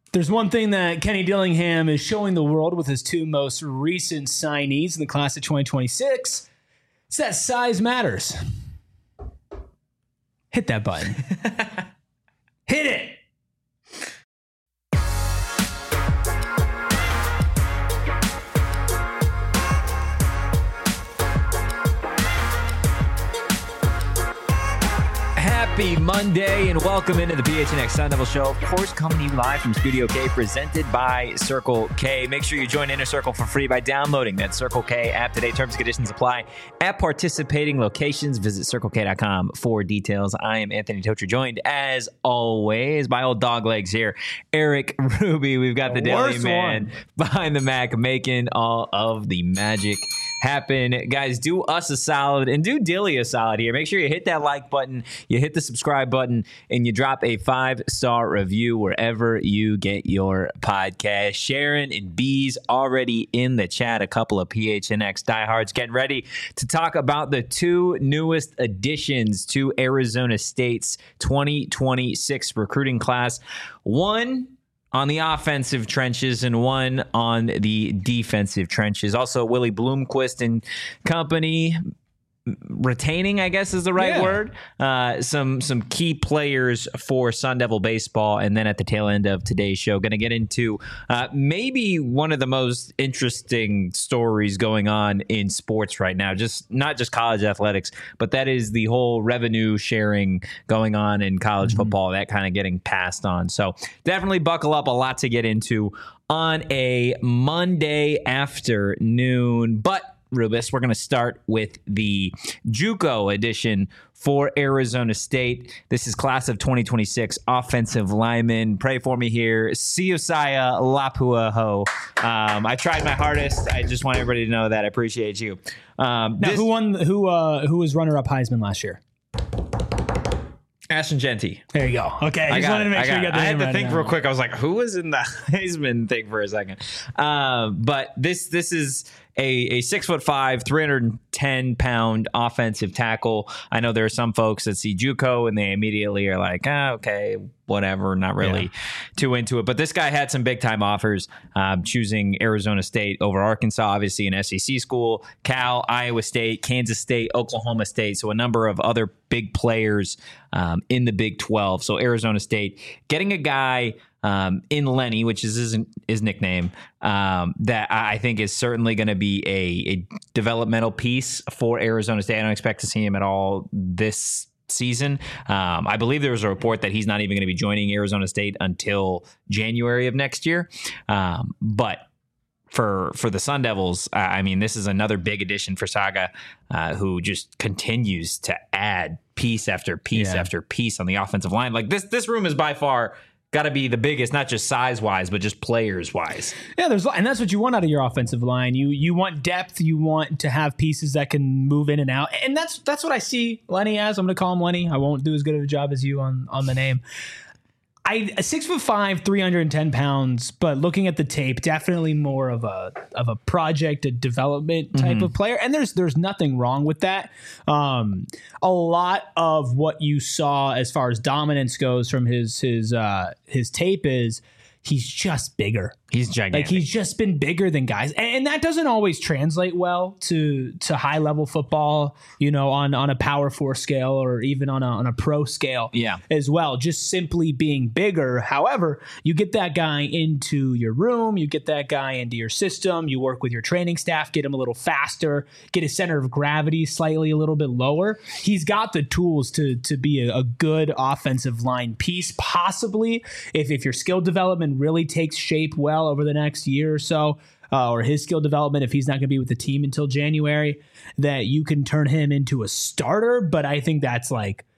There's one thing that Kenny Dillingham is showing the world with his two most recent signees in the class of 2026. It's that size matters. Hit that button. Hit it. Happy Monday and welcome into the PHNX Sun Devil Show. Of course, coming to you live from Studio K, presented by Circle K. Make sure you join Inner Circle for free by downloading that Circle K app today. Terms and conditions apply at participating locations. Visit CircleK.com for details. I am Anthony Tocher, joined as always by old dog legs here, Eric Ruby. We've got the Daily Man behind the Mac making all of the magic happen. Guys, do us a solid and do Dilly a solid here. Make sure you hit that like button, you hit the subscribe button, and you drop a 5-star review wherever you get your podcast. Sharon and B's already in the chat. A couple of PHNX diehards getting ready to talk about the two newest additions to Arizona State's 2026 recruiting class. One on the offensive trenches and one on the defensive trenches. Also, Willie Bloomquist and company retaining, I guess is the right word, some key players for Sun Devil baseball. And then at the tail end of today's show, going to get into maybe one of the most interesting stories going on in sports right now, just not just college athletics, but that is the whole revenue sharing going on in college football, that kind of getting passed on. So definitely buckle up, a lot to get into on a Monday afternoon. But Rubus, we're going to start with the JUCO edition for Arizona State. This is class of 2026 offensive lineman. Pray for me here, Siosiah Lapuaho. I tried my hardest. I just want everybody to know that. I appreciate you. Now, who won? Who was runner-up Heisman last year? Ashton Genty. There you go. Okay, I just wanted to make sure you got the name right. I had to think real quick. I was like, who was in the Heisman thing for a second? But this is a 6'5", 310-pound offensive tackle. I know there are some folks that see JUCO and they immediately are like, okay, whatever, not really too into it. But this guy had some big-time offers, choosing Arizona State over Arkansas, obviously an SEC school, Cal, Iowa State, Kansas State, Oklahoma State, so a number of other big players in the Big 12. So Arizona State getting a guy in Lenny, which is his nickname, that I think is certainly going to be a developmental piece for Arizona State. I don't expect to see him at all this season. I believe there was a report that he's not even going to be joining Arizona State until January of next year. But for the Sun Devils, I mean, this is another big addition for Saga, who just continues to add piece after piece after piece on the offensive line. Like this room is by far got to be the biggest, not just size-wise, but just players-wise. Yeah, and that's what you want out of your offensive line. You want depth. You want to have pieces that can move in and out. And that's what I see Lenny as. I'm going to call him Lenny. I won't do as good of a job as you on the name. A 6'5", 310 pounds, but looking at the tape, definitely more of a project, a development type of player. And there's nothing wrong with that. A lot of what you saw as far as dominance goes from his tape is he's just bigger. He's gigantic. Like he's just been bigger than guys. And that doesn't always translate well to high level football, on a Power 4 scale or even on a pro scale as well. Just simply being bigger. However, you get that guy into your room, you get that guy into your system, you work with your training staff, get him a little faster, get his center of gravity slightly a little bit lower. He's got the tools to be a good offensive line piece, possibly if your skill development really takes shape well over the next year or so, or his skill development, if he's not going to be with the team until January, that you can turn him into a starter. But I think that's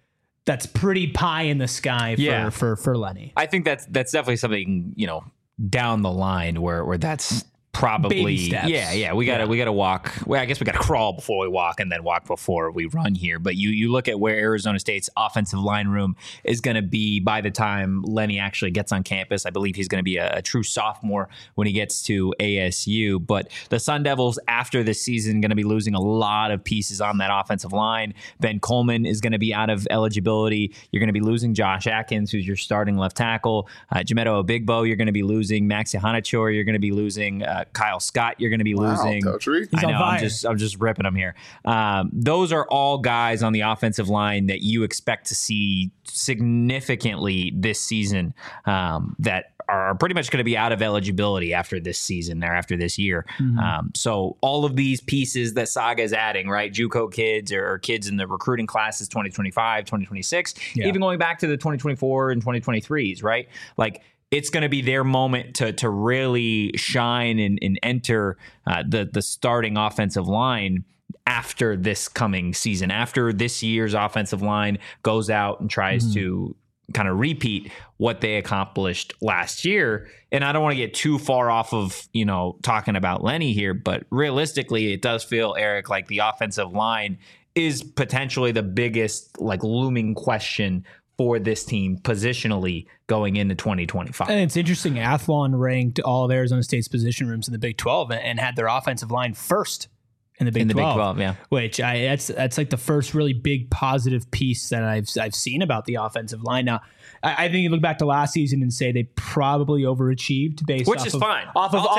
pretty pie in the sky for Lenny. I think that's definitely something, down the line where that's probably baby steps. We gotta walk. Well, I guess we gotta crawl before we walk, and then walk before we run here. But you look at where Arizona State's offensive line room is going to be by the time Lenny actually gets on campus. I believe he's going to be a true sophomore when he gets to ASU. But the Sun Devils, after this season, going to be losing a lot of pieces on that offensive line. Ben Coleman is going to be out of eligibility. You're going to be losing Josh Atkins, who's your starting left tackle. Jamedo Obigbo, you're going to be losing. Maxi Hanachor, you're going to be losing. Kyle Scott, you're going to be losing. I know, I'm just ripping them here. Those are all guys on the offensive line that you expect to see significantly this season that are pretty much going to be out of eligibility after this season or after this year. So all of these pieces that Saga is adding, right? JUCO kids or kids in the recruiting classes 2025, 2026, even going back to the 2024 and 2023s, right? Like, it's going to be their moment to really shine and enter the starting offensive line after this coming season, after this year's offensive line goes out and tries to kind of repeat what they accomplished last year. And I don't want to get too far off of, talking about Lenny here, but realistically, it does feel, Eric, like the offensive line is potentially the biggest looming question for this team positionally going into 2025. And it's interesting. Athlon ranked all of Arizona State's position rooms in the Big 12 and had their offensive line first in the Big 12. Big 12, yeah. Which that's like the first really big positive piece that I've seen about the offensive line. Now, I think you look back to last season and say they probably overachieved based which is fine. Off of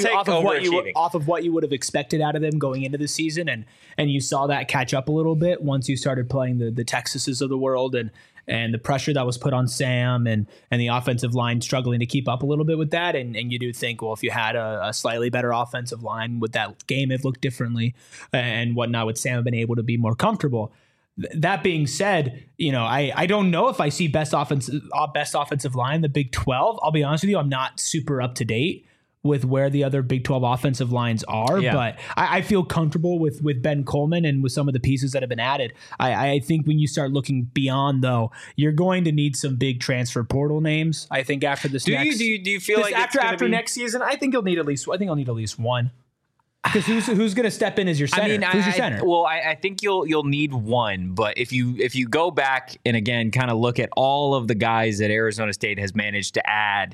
what you would have expected out of them going into the season, and you saw that catch up a little bit once you started playing the Texases of the world and the pressure that was put on Sam and the offensive line struggling to keep up a little bit with that. And you do think, well, if you had a slightly better offensive line, would that game have looked differently and whatnot? Would Sam have been able to be more comfortable? That being said, I don't know if I see best offensive line in the Big 12. I'll be honest with you, I'm not super up to date with where the other Big 12 offensive lines are, but I feel comfortable with Ben Coleman and with some of the pieces that have been added. I think when you start looking beyond, though, you're going to need some big transfer portal names. I think after this, do you feel like after next season, I think I'll need at least one. Because who's going to step in as your center? Who's your center? I think you'll need one, but if you go back and again kind of look at all of the guys that Arizona State has managed to add.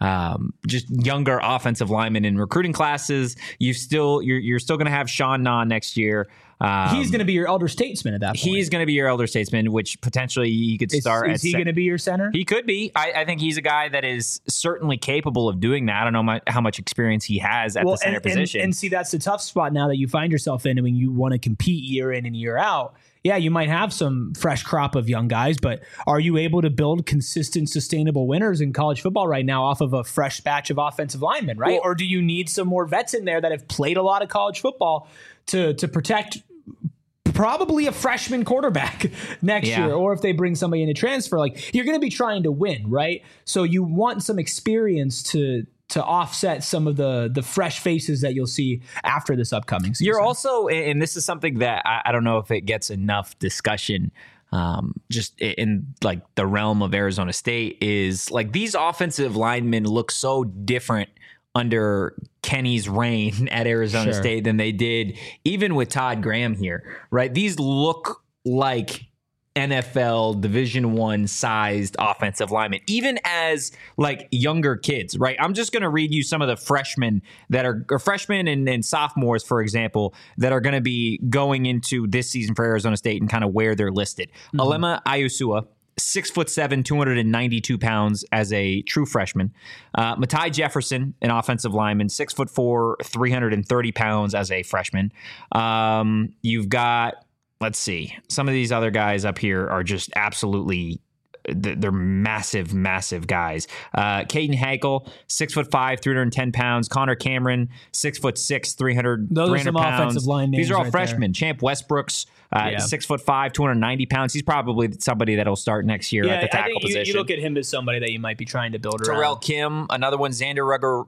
Just younger offensive linemen in recruiting classes. You're still going to have Sean Na next year. He's going to be your elder statesman at that point. He's going to be your elder statesman, which potentially he could start. Is he going to be your center? He could be. I think he's a guy that is certainly capable of doing that. I don't know how much experience he has at the center position. And see, that's the tough spot now that you find yourself in when you want to compete year in and year out. Yeah, you might have some fresh crop of young guys, but are you able to build consistent, sustainable winners in college football right now off of a fresh batch of offensive linemen, right? Or do you need some more vets in there that have played a lot of college football to protect probably a freshman quarterback next year? Or if they bring somebody in to transfer, you're going to be trying to win, right? So you want some experience to offset some of the fresh faces that you'll see after this upcoming season. You're also, and this is something that I don't know if it gets enough discussion just in the realm of Arizona State, is these offensive linemen look so different under Kenny's reign at Arizona State than they did even with Todd Graham here, right? These look like NFL Division I sized offensive linemen, even as younger kids, right? I'm just going to read you some of the freshmen that are freshmen and sophomores, for example, that are going to be going into this season for Arizona State and kind of where they're listed. Alema Ayusua, 6'7", 292 pounds as a true freshman. Matai Jefferson, an offensive lineman, 6'4", 330 pounds as a freshman. You've got, let's see, some of these other guys up here are just absolutely, they're massive, massive guys. Caden Hakel, 6'5", 310 pounds. Connor Cameron, 6'6", 300 Those 300 are some pounds. offensive line names. These are all right freshmen. there. Champ Westbrooks, 6'5", 290 pounds. He's probably somebody that'll start next year at the tackle position. You look at him as somebody that you might be trying to build around. Terrell Kim, another one. Xander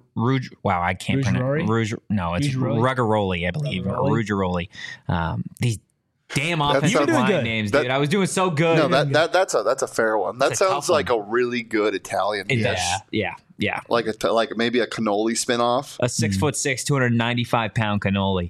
I can't pronounce. No, it's Ruggeroli, I believe. Ruggeroli. These Damn offensive line names, dude. I was doing so good. No, that's a fair one. That sounds like a really good Italian dish. Yeah. Like maybe a cannoli spinoff. A 6'6", 295-pound cannoli.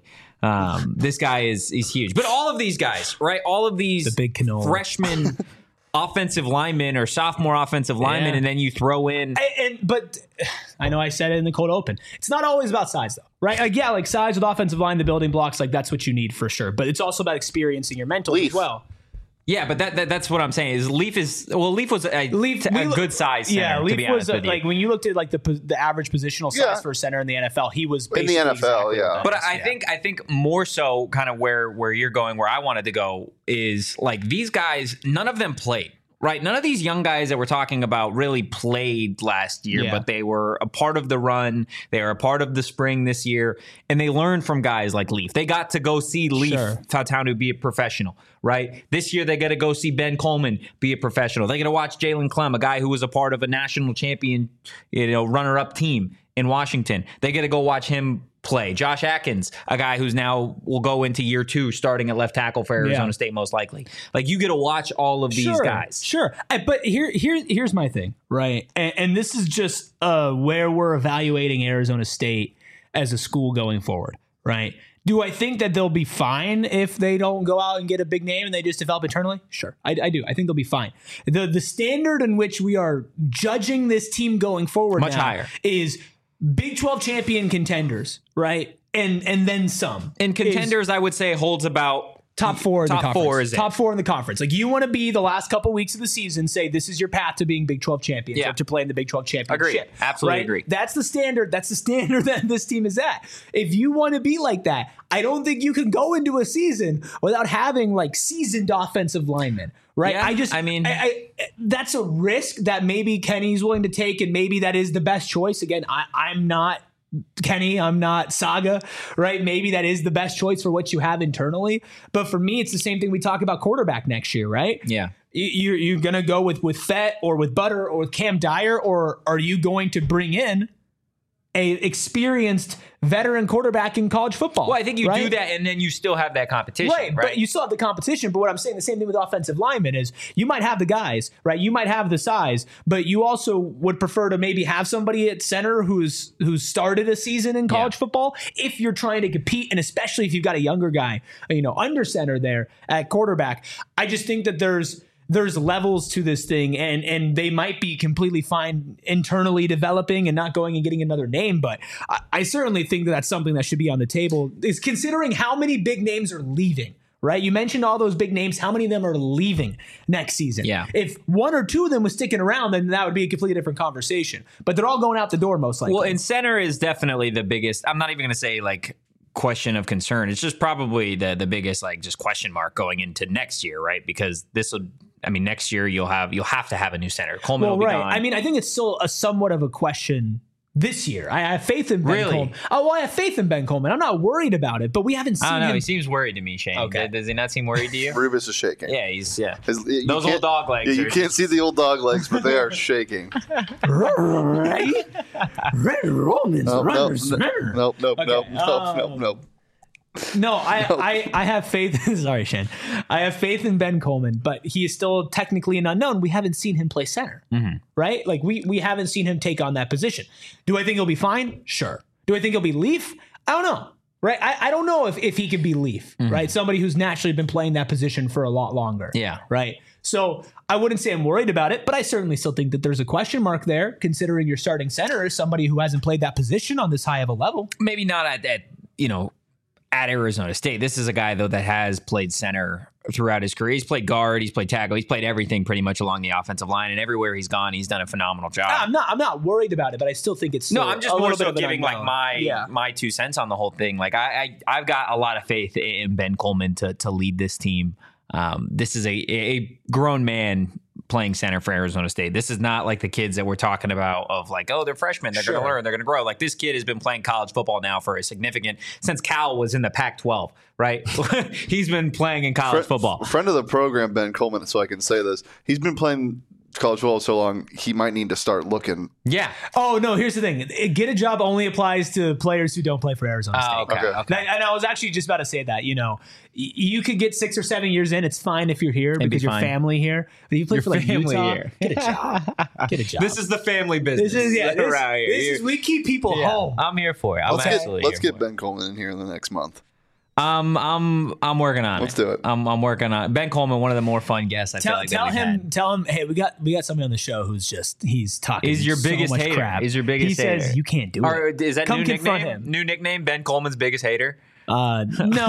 This guy he's huge. But all of these guys, right? All of these the big cannoli. Freshmen offensive linemen or sophomore offensive linemen, and then you throw in. But I know I said it in the cold open. It's not always about size, though, right? Like size with offensive line, the building blocks, like that's what you need for sure. But it's also about experiencing your mental as well. Yeah, but that's what I'm saying. Leaf was a good size center. Yeah, Leaf was like when you looked at like the average positional size for a center in the NFL, he was basically in the NFL. Exactly but I think more so kind of where you're going, where I wanted to go is like these guys. None of them played. Right. None of these young guys that we're talking about really played last year, but they were a part of the run. They were a part of the spring this year, and they learned from guys like Leaf. They got to go see Leaf Fautanu be a professional, right? This year, they got to go see Ben Coleman be a professional. They got to watch Jalen Clem, a guy who was a part of a national champion, runner-up team in Washington. They got to go watch him play. Josh Atkins, a guy who's now will go into year 2 starting at left tackle for Arizona State most likely. Like you get to watch all of these guys. Sure. But here's my thing, right? And this is just where we're evaluating Arizona State as a school going forward, right? Do I think that they'll be fine if they don't go out and get a big name and they just develop internally? Sure, I do. I think they'll be fine. The standard in which we are judging this team going forward much higher is Big 12 champion contenders, right? And then some. And contenders, I would say, holds about top 4 in the conference. Top 4 in the conference. Like you want to be the last couple weeks of the season, say this is your path to being Big 12 champions or to play in the Big 12 championship. Agree. Absolutely agree. That's the standard. That's the standard that this team is at. If you want to be like that, I don't think you can go into a season without having like seasoned offensive linemen. Right. Yeah, that's a risk that maybe Kenny's willing to take, and maybe that is the best choice. Again, I'm not Kenny, I'm not Saga, right? Maybe that is the best choice for what you have internally. But for me, it's the same thing we talk about quarterback next year, right? Yeah. You're going to go with Fett or with Butter or with Cam Dyer, or are you going to bring in a experienced veteran quarterback in college football? Well, I think you do that, and then you still have that competition, right? But you still have the competition. But what I'm saying, the same thing with offensive linemen is you might have the guys, right? You might have the size, but you also would prefer to maybe have somebody at center who's started a season in college football if you're trying to compete, and especially if you've got a younger guy, under center there at quarterback. I just think that there's levels to this thing, and they might be completely fine internally developing and not going and getting another name. But I certainly think that that's something that should be on the table, is considering how many big names are leaving, right? You mentioned all those big names. How many of them are leaving next season? Yeah. If 1 or 2 of them was sticking around, then that would be a completely different conversation. But they're all going out the door most likely. Well, and center is definitely the biggest. I'm not even going to say like question of concern. It's just probably the biggest like just question mark going into next year, right? Because next year you'll have to have a new center. Coleman will be gone. I think it's still a somewhat of a question this year. I have faith in Ben Coleman. Oh, well, I have faith in Ben Coleman. I'm not worried about it, but we haven't seen him. He seems worried to me, Shane. Okay. Does he not seem worried to you? Rubus is shaking. Yeah, those old dog legs. Yeah, you can't see the old dog legs, but they are shaking. Red Romans. Nope. No, I have faith. Sorry, Shane. I have faith in Ben Coleman, but he is still technically an unknown. We haven't seen him play center, right? Like we haven't seen him take on that position. Do I think he'll be fine? Sure. Do I think he'll be Leaf? I don't know, right? I don't know if he could be Leaf, right? Somebody who's naturally been playing that position for a lot longer. Yeah. Right. So I wouldn't say I'm worried about it, but I certainly still think that there's a question mark there, considering your starting center is somebody who hasn't played that position on this high of a level. Maybe not at Arizona State. This is a guy, though, that has played center throughout his career. He's played guard, he's played tackle, he's played everything pretty much along the offensive line, and everywhere he's gone, he's done a phenomenal job. I'm not worried about it, but I still think it's I'm just more so giving like my 2 cents on the whole thing. Like I've got a lot of faith in Ben Coleman to lead this team. This is a grown man playing center for Arizona State. This is not like the kids that we're talking about of like, oh, they're freshmen, they're going to learn, they're going to grow. Like this kid has been playing college football now for a significant, since Cal was in the Pac-12, right? He's been playing in college football. Friend of the program, Ben Coleman, so I can say this. He's been playing college football so long, he might need to start looking. Yeah. Oh, no, here's the thing. Get a job only applies to players who don't play for Arizona State. Okay. And I was actually just about to say that, you could get 6 or 7 years in. It's fine if you're here because your family here. But you play for like Utah, get a job. Get a job. This is the family business. We keep people home. I'm here for it. Let's get Ben Coleman in here in the next month. I'm working on it. Let's do it. I'm working on it. Ben Coleman, one of the more fun guests. Tell him. Hey, we got somebody on the show who's he's talking. He's your biggest much hater. Crap. He's your biggest hater. He says you can't do it. Is that Come confront him. New nickname? Ben Coleman's biggest hater. No, I don't think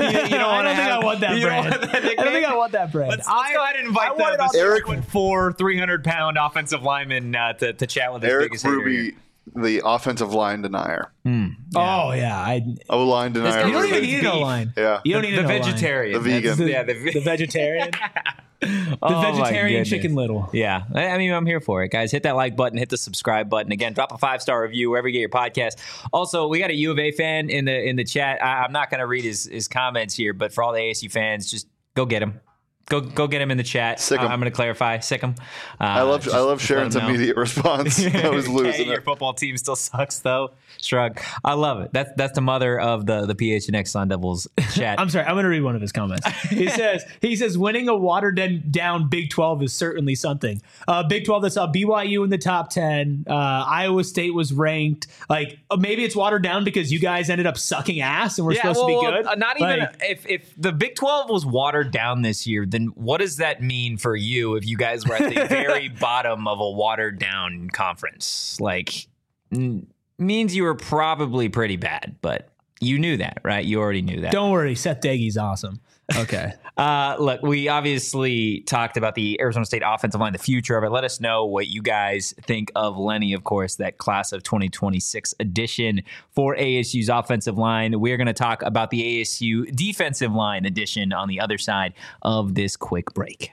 I want that brand. I don't think I want that brand. Let's go ahead and invite the Eric 6'4", 300-pound offensive lineman to chat with his biggest hater. Eric Ruby, the offensive line denier. Yeah. Oh yeah, O-line denier. You don't even need an O-line. Yeah, you don't need the vegetarian, the vegan, the vegetarian. The vegetarian Chicken Little. Yeah. I mean, I'm here for it, guys. Hit that like button, hit the subscribe button. Again, drop a 5-star review wherever you get your podcast. Also, we got a U of A fan in the chat. I'm not going to read his comments here, but for all the ASU fans, just go get him. Go get him in the chat. I'm going to clarify. Sick him. I love Sharon's immediate response. I was losing your football team still sucks, though. Shrug. I love it. That's the mother of the PHNX Sun Devils chat. I'm sorry. I'm going to read one of his comments. He says winning a watered down Big 12 is certainly something. Big 12 that saw BYU in the top 10. Iowa State was ranked. Like maybe it's watered down because you guys ended up sucking ass and we're supposed to be good. Not even if the Big 12 was watered down this year, then what does that mean for you if you guys were at the very bottom of a watered down conference? Like, means you were probably pretty bad, but you knew that, right? You already knew that. Don't worry, Seth Dagy's awesome. Okay. Look, we obviously talked about the Arizona State offensive line, the future of it. Let us know what you guys think of Lenny, of course, that class of 2026 edition for ASU's offensive line. We're going to talk about the ASU defensive line edition on the other side of this quick break.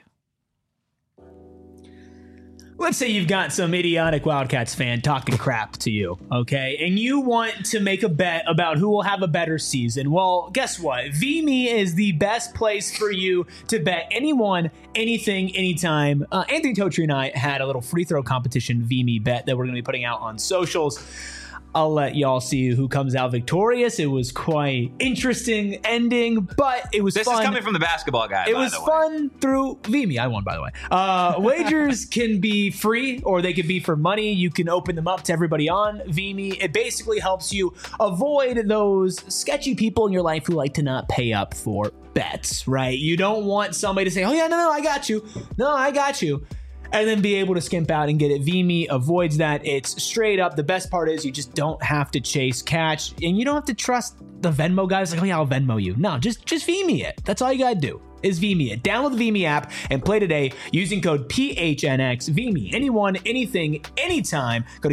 Let's say you've got some idiotic Wildcats fan talking crap to you, okay? And you want to make a bet about who will have a better season. Well, guess what? VMe is the best place for you to bet anyone, anything, anytime. Anthony Totri and I had a little free throw competition VMe bet that we're going to be putting out on socials. I'll let y'all see who comes out victorious. It was quite interesting ending, but it was fun. This is coming from the basketball guy, It was fun through VMe. I won, by the way. Wagers can be free or they could be for money. You can open them up to everybody on VMe. It basically helps you avoid those sketchy people in your life who like to not pay up for bets, right? You don't want somebody to say, oh yeah, no, I got you. No, I got you. And then be able to skimp out and get it. VMe avoids that. It's straight up. The best part is you just don't have to chase catch, and you don't have to trust the Venmo guys. Like, oh yeah, I'll Venmo you. No, just VMe it. That's all you gotta do. Is VMe it. Download the VMe app and play today using code PHNX. VMe. Anyone, anything, anytime. Go to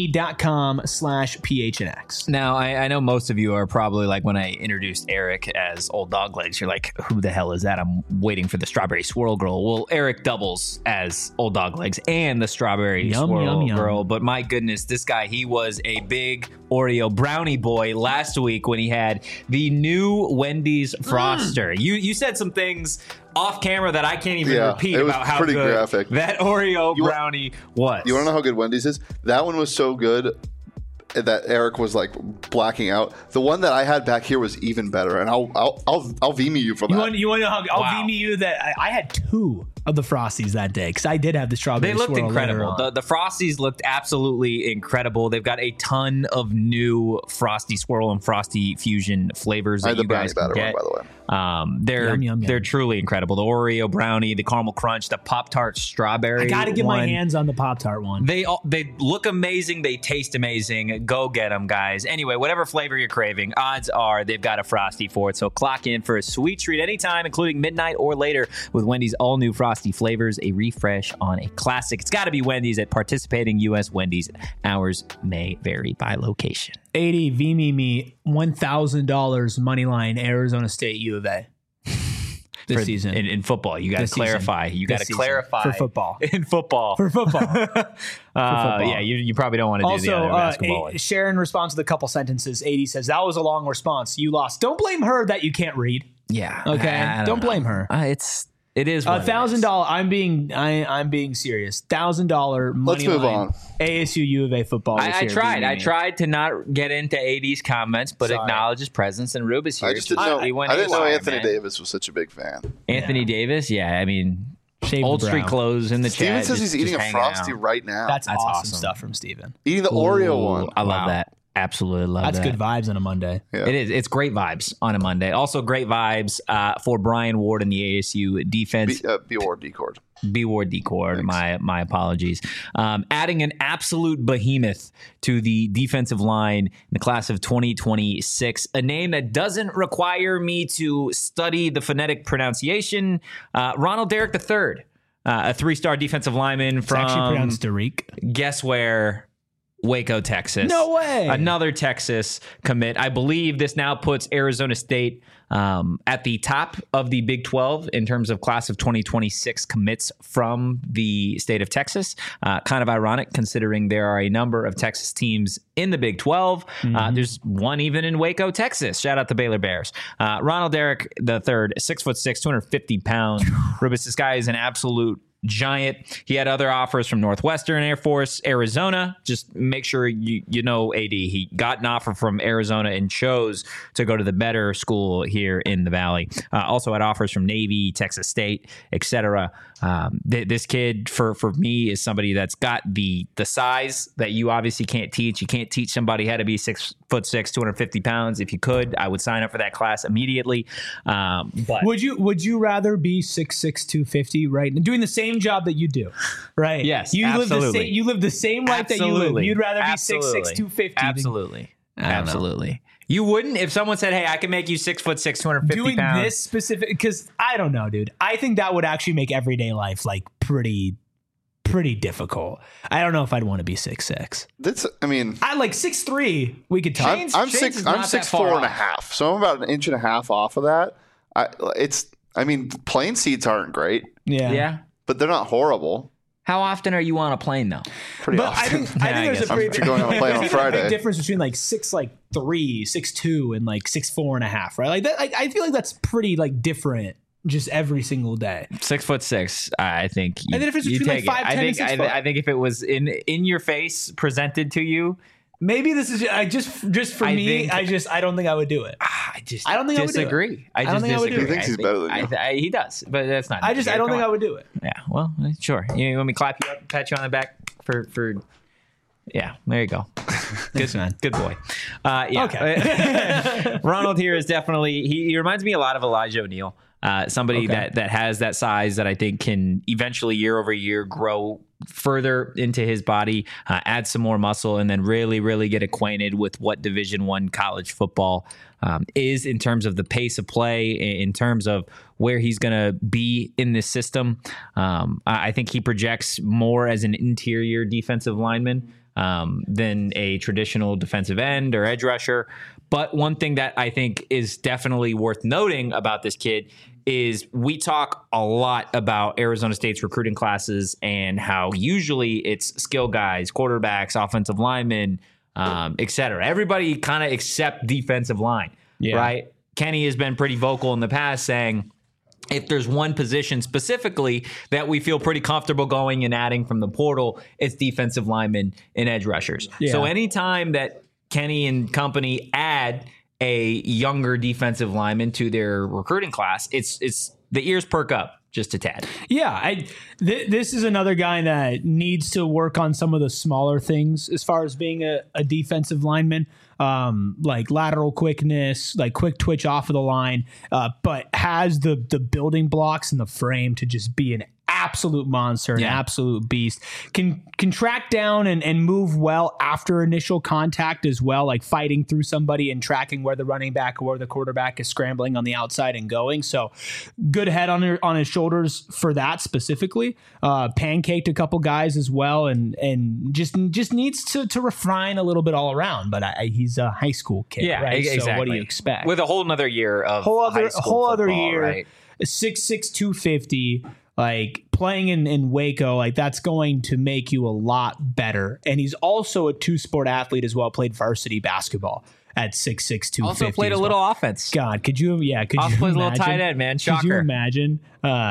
getvme.com/PHNX. Now, I know most of you are probably like, when I introduced Eric as Old Dog Legs, you're like, who the hell is that? I'm waiting for the Strawberry Swirl Girl. Well, Eric doubles as Old Dog Legs and the Strawberry Swirl Girl. But my goodness, this guy, he was a big Oreo brownie boy last week when he had the new Wendy's Froster. You said some things off camera that I can't even repeat about how good graphic. That Oreo brownie was. You want to know how good Wendy's is? That one was so good that Eric was like blacking out. The one that I had back here was even better, and I'll VMe you for that. You want to know how I'll VMe you that I had 2 of the Frosties that day because I did have the strawberry. They looked swirl incredible. The Frosties looked absolutely incredible. They've got a ton of new Frosty Swirl and Frosty Fusion flavors that you guys can get. One, by the way. They're truly incredible. The Oreo brownie, the caramel crunch, the Pop-Tart strawberry. I got to get my hands on the Pop-Tart one. They look amazing. They taste amazing. Go get them, guys. Anyway, whatever flavor you're craving, odds are they've got a Frosty for it. So clock in for a sweet treat anytime, including midnight or later, with Wendy's all-new Frosty flavors, a refresh on a classic. It's got to be Wendy's at participating U.S. Wendy's. Hours may vary by location. 80 VMe me $1,000 money line Arizona State U of A this season in football. You got to clarify. You got to clarify for football. In football for football. Yeah, you probably don't want to do the other basketball one. Sharon responds with a couple sentences. 80 says that was a long response. You lost. Don't blame her that you can't read. Yeah. Okay. Don't blame her. It is $1,000. I'm being serious. $1,000 money. Let's move on. ASU U of A football. I tried to not get into AD's comments, but acknowledge his presence. And Rube is here. I didn't know Anthony Davis was such a big fan. Anthony Davis, yeah. I mean, Shaved Old Street clothes in the Steven chat. says he's eating a Frosty right now. That's awesome stuff from Steven. Eating the Oreo one. I love that. Absolutely love that. That's good vibes on a Monday. Yeah. It is. It's great vibes on a Monday. Also great vibes for Brian Ward and the ASU defense. B Ward Decord. B Ward Decord. My apologies. Adding an absolute behemoth to the defensive line in the class of 2026. A name that doesn't require me to study the phonetic pronunciation. Ronald Derrick III. A 3-star defensive lineman from... It's actually pronounced Derrick. Guess where? Waco, Texas. No way. Another Texas commit. I believe this now puts Arizona State at the top of the Big 12 in terms of class of 2026 commits from the state of Texas. Kind of ironic considering there are a number of Texas teams in the Big 12. There's one even in Waco, Texas. Shout out the Baylor Bears. Ronald Derrick III, 6'6", 250 pounds. Rubis, this guy is an absolute giant. He had other offers from Northwestern Air Force, Arizona. Just make sure you know AD. He got an offer from Arizona and chose to go to the better school here in the Valley. Also had offers from Navy, Texas State, etc. This kid, for me, is somebody that's got the size that you obviously can't teach. You can't teach somebody how to be 6'6", 250 pounds. If you could, I would sign up for that class immediately. But would you rather be 6'6", 250, right? And doing the same job that you do, right? Yes, you absolutely. You live the same life that you live. You'd rather be 6'6", 250. Absolutely. You wouldn't if someone said, "Hey, I can make you 6'6", 250 doing pounds." Doing this specific, because I don't know, dude. I think that would actually make everyday life like pretty difficult. I don't know if I'd want to be 6'6". I like 6'3". We could talk. I'm 6'4.5", so I'm about an inch and a half off of that. Plane seats aren't great. Yeah. But they're not horrible. How often are you on a plane though? Pretty often. I think there's a pretty going on a plane on Friday. Big difference between like 6'3", 6'2", and like 6'4.5", right? Like that. Like I feel like that's pretty like different just every single day. 6'6", I think. And the difference between like 5'10" and 6 foot. I think if it was in your face presented to you. Maybe this is just for me. I don't think I would do it. I don't think disagree. I don't think I would do it. He thinks he's better than you. He does, but that's not. I don't think I would do it. Yeah. Well, sure. You want me to clap you up, pat you on the back for? Yeah. There you go. Good man. Good boy. Yeah. Okay. Ronald here is definitely. He reminds me a lot of Elijah O'Neal. Somebody that has that size that I think can eventually year over year grow further into his body, add some more muscle, and then really get acquainted with what Division I college football is in terms of the pace of play, in terms of where he's going to be in this system. I think he projects more as an interior defensive lineman than a traditional defensive end or edge rusher. But one thing that I think is definitely worth noting about this kid is we talk a lot about Arizona State's recruiting classes and how usually it's skill guys, quarterbacks, offensive linemen, et cetera. Everybody kind of except defensive line, right? Kenny has been pretty vocal in the past saying, if there's one position specifically that we feel pretty comfortable going and adding from the portal, it's defensive linemen and edge rushers. Yeah. So anytime that Kenny and company add a younger defensive lineman to their recruiting class, it's the ears perk up just a tad. Yeah, this is another guy that needs to work on some of the smaller things as far as being a defensive lineman, like lateral quickness, like quick twitch off of the line, but has the building blocks and the frame to just be an absolute monster, an absolute beast. Can track down and move well after initial contact as well, like fighting through somebody and tracking where the running back or the quarterback is scrambling on the outside and going. So good head on his shoulders for that specifically. Pancaked a couple guys as well, and just needs to refine a little bit all around. But he's a high school kid, right? Exactly. So what do you expect? With a whole nother year of whole other football, year, right? 6'6", 250. Like playing in Waco, like that's going to make you a lot better. And he's also a two-sport athlete as well. Played varsity basketball at 6'6", 250. Also played a little offense. God, could you? Yeah, could also you plays imagine? A little tight end, man. Shocker. Could you imagine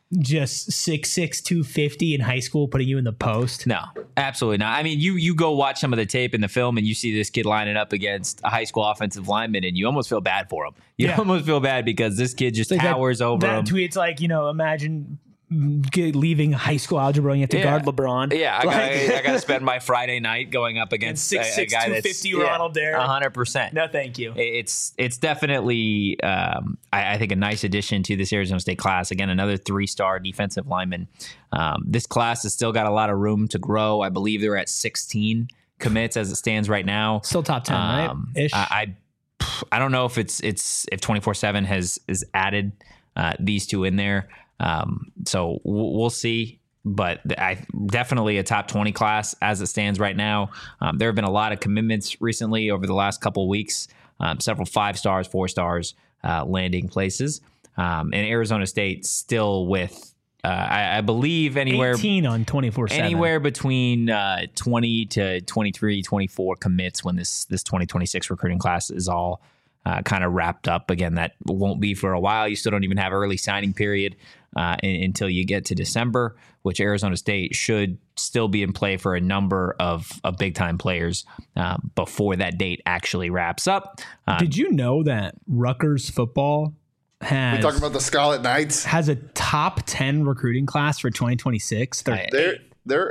just 6'6", 250 in high school, putting you in the post. No, absolutely not. I mean, you go watch some of the tape in the film and you see this kid lining up against a high school offensive lineman and you almost feel bad for him. You almost feel bad because this kid just towers over him. That tweet's like, imagine leaving high school algebra and you have to guard LeBron. Yeah, I got to spend my Friday night going up against a guy 250 Ronald Darrow. 100%. No, thank you. It's definitely, I think, a nice addition to this Arizona State class. Again, another 3-star defensive lineman. This class has still got a lot of room to grow. I believe they're at 16 commits as it stands right now. Still top 10, right? Ish. I don't know if if 24/7 has added these two in there. So we'll see, but I definitely a top 20 class as it stands right now. There have been a lot of commitments recently over the last couple of weeks, several 5 stars, 4 stars, landing places. And Arizona State still with, I believe anywhere 18 on 24/7, anywhere between 20 to 23, 24 commits when this 2026 recruiting class is all kind of wrapped up. Again, that won't be for a while. You still don't even have early signing period until you get to December, which Arizona State should still be in play for a number of big-time players before that date actually wraps up. Did you know that Rutgers football we talking about the Scarlet Knights? Has a top 10 recruiting class for 2026? Their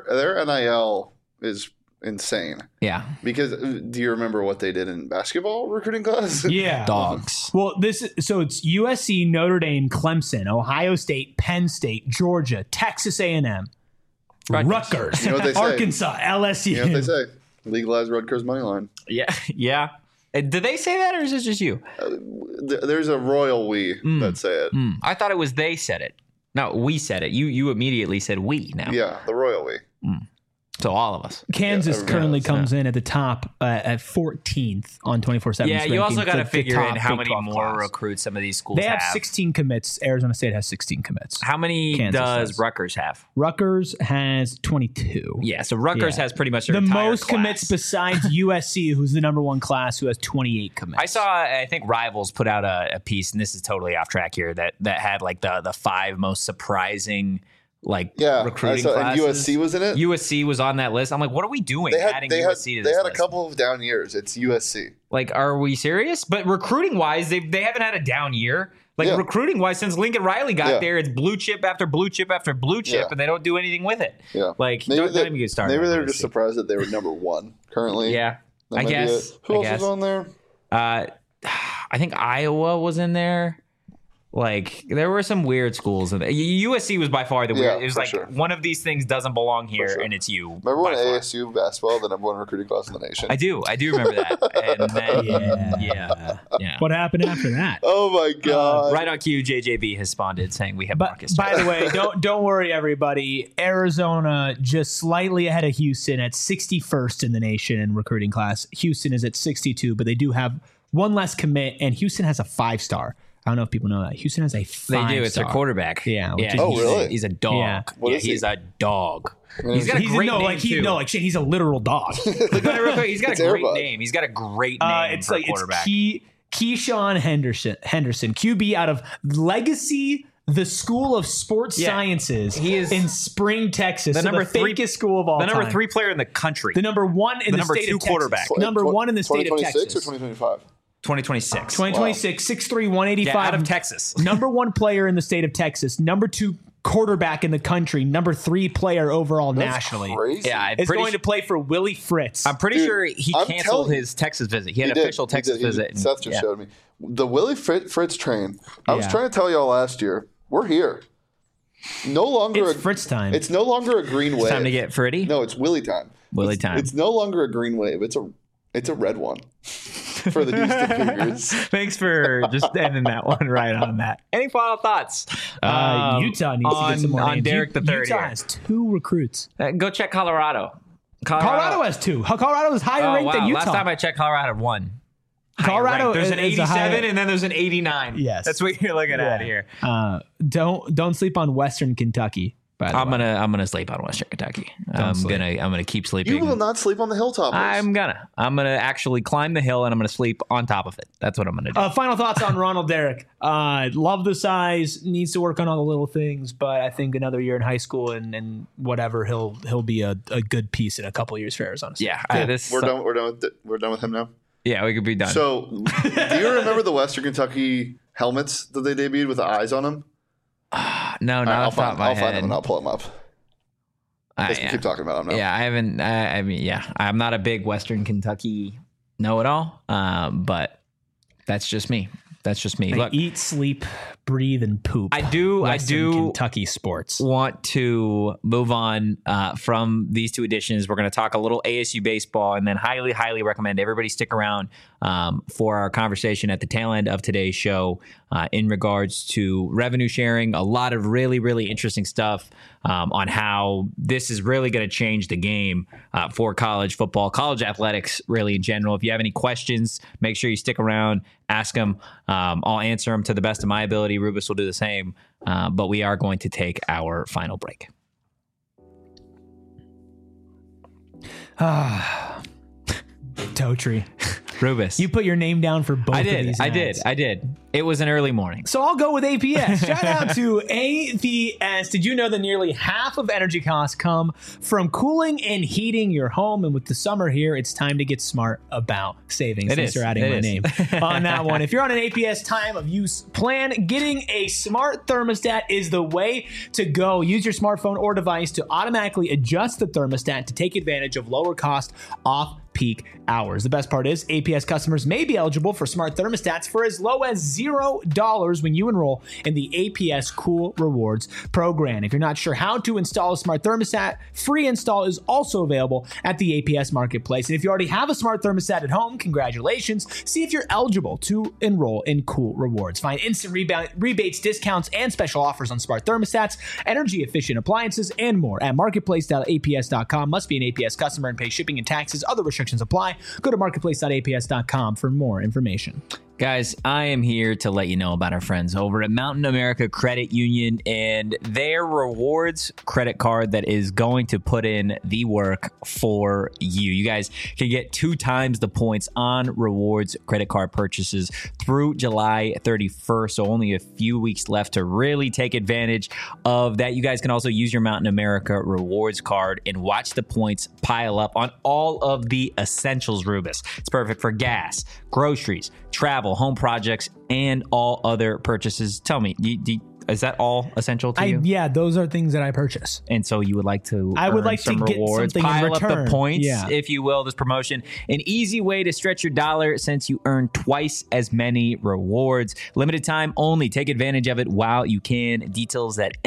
NIL is insane. Yeah. Because do you remember what they did in basketball recruiting class? Yeah. Dogs. Well, it's USC, Notre Dame, Clemson, Ohio State, Penn State, Georgia, Texas A&M, Rutgers, you know what they say? Arkansas, LSU. You know what they say? Legalize Rutgers money line. Yeah. Yeah. Did they say that or is it just you? There's a royal we that say it. I thought it was they said it. No, we said it. You immediately said we now. Yeah, the royal we. So all of us. Kansas currently comes in at the top at 14th on 24/7. Yeah, you also got to figure in how many more recruits some of these schools have. They have 16 commits. Arizona State has 16 commits. How many does Rutgers have? Rutgers has 22. Yeah, so Rutgers has pretty much the most class. Commits besides USC, who's the number 1 class, who has 28 commits. I think Rivals put out a piece, and this is totally off track here, that had like the 5 most surprising recruiting classes. And USC was in it? USC was on that list. I'm like, what are we doing adding USC to this list? They had a couple of down years. It's USC. Like, are we serious? But recruiting-wise, they haven't had a down year. Recruiting-wise, since Lincoln Riley got there, it's blue chip after blue chip after blue chip, and they don't do anything with it. Yeah. Like, don't even get started. Maybe they're just surprised that they were number 1 currently. Yeah, I guess. Who else was on there? I think Iowa was in there. Like, there were some weird schools. USC was by far the weird. It was like, one of these things doesn't belong here, and it's you. Remember when ASU basketball, the number 1 recruiting class in the nation? I do remember that. And then, yeah. What happened after that? Oh, my God. Right on cue, JJB has responded saying we have Marcus. By the way, don't worry, everybody. Arizona just slightly ahead of Houston at 61st in the nation in recruiting class. Houston is at 62, but they do have 1 less commit, and Houston has a 5-star. I don't know if people know that. Houston has a 5-star. They do. It's their quarterback. Yeah. Really? He's a dog. Yeah. He's a dog. He's got a great name, too. He's a literal dog. Look at it real quick. He's got a great name. He's got a great name for a quarterback. It's Keyshawn Henderson, QB out of Legacy, the School of Sports Sciences. He is in Spring, Texas. The number fakest school of all time. The number 3 player in the country. The number 1 in the state of Texas. Quarterback. Number 1 in the state of Texas. 2026 or 2025? 2026. 2026, 6'3", 185. Yeah, out of Texas. Number 1 player in the state of Texas. Number 2 quarterback in the country. Number 3 player overall nationally. Crazy. Yeah, is going to play for Willie Fritz. I'm pretty sure he canceled his Texas visit. He had an official Texas visit. Seth just showed me. The Willie Fritz train. I was trying to tell y'all last year, we're here. No longer it's Fritz time. It's no longer a green wave. It's time to get Fritty? No, it's Willie time. Willie time. It's no longer a green wave. It's a red one. For the Houston Cougars. Thanks for just ending that one right on that. Any final thoughts? Utah needs to get some more on Derek the Third. Utah has 2 recruits. Go check Colorado. Colorado has 2. Colorado is higher ranked than Utah. Last time I checked, Colorado had 1. Colorado there's an 87 and then there's an 89. Yes, that's what you're looking at here. Don't sleep on Western Kentucky. I'm gonna sleep on Western Kentucky. I'm gonna keep sleeping. You will not sleep on the hilltop. I'm gonna actually climb the hill and I'm gonna sleep on top of it. That's what I'm gonna do. Final thoughts on Ronald Derrick. Love the size. Needs to work on all the little things, but I think another year in high school and whatever, he'll be a good piece in a couple years for Arizona State. Yeah, we're done with him now. Yeah, we could be done. So, do you remember the Western Kentucky helmets that they debuted with the eyes on them? No, not off the top of my head. I'll find them and I'll pull them up. Keep talking about them now. Yeah, I haven't. I'm not a big Western Kentucky know-it-all, but that's just me. Look, eat, sleep, breathe, and poop. I do Kentucky sports. Want to move on from these two editions. We're going to talk a little ASU baseball, and then highly recommend everybody stick around for our conversation at the tail end of today's show in regards to revenue sharing. A lot of really interesting stuff on how this is really going to change the game for college football, college athletics, really in general. If you have any questions, make sure you stick around, ask them. I'll answer them to the best of my ability. Rubus will do the same. But we are going to take our final break. Totri. Rubus. You put your name down for both of these ads. I did. It was an early morning. So I'll go with APS. Shout out to APS. Did you know that nearly half of energy costs come from cooling and heating your home? And with the summer here, it's time to get smart about savings. Thanks for adding my name on that one. If you're on an APS time of use plan, getting a smart thermostat is the way to go. Use your smartphone or device to automatically adjust the thermostat to take advantage of lower cost off peak hours. The best part is APS customers may be eligible for smart thermostats for as low as $0 when you enroll in the APS Cool Rewards program. If you're not sure how to install a smart thermostat, free install is also available at the APS Marketplace. And if you already have a smart thermostat at home, congratulations. See if you're eligible to enroll in Cool Rewards. Find instant rebates, discounts, and special offers on smart thermostats, energy efficient appliances, and more at marketplace.aps.com. Must be an APS customer and pay shipping and taxes. Other restrictions apply. Go to marketplace.aps.com for more information. Guys, I am here to let you know about our friends over at Mountain America Credit Union and their rewards credit card that is going to put in the work for you. You guys can get 2 times the points on rewards credit card purchases through July 31st. So only a few weeks left to really take advantage of that. You guys can also use your Mountain America rewards card and watch the points pile up on all of the essentials, Rubus. It's perfect for gas, groceries, travel, home projects, and all other purchases. Tell me, is that all essential to you? Yeah, those are things that I purchase. And so you would like to some rewards, get something pile in return. Up the points, if you will, this promotion. An easy way to stretch your dollar since you earn twice as many rewards. Limited time only. Take advantage of it while you can. Details at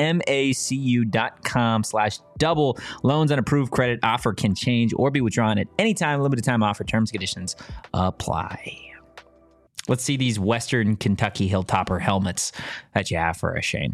macu.com/double. Loans and approved credit offer can change or be withdrawn at any time. Limited time offer. Terms and conditions apply. Let's see these Western Kentucky Hilltopper helmets that you have for us, Shane.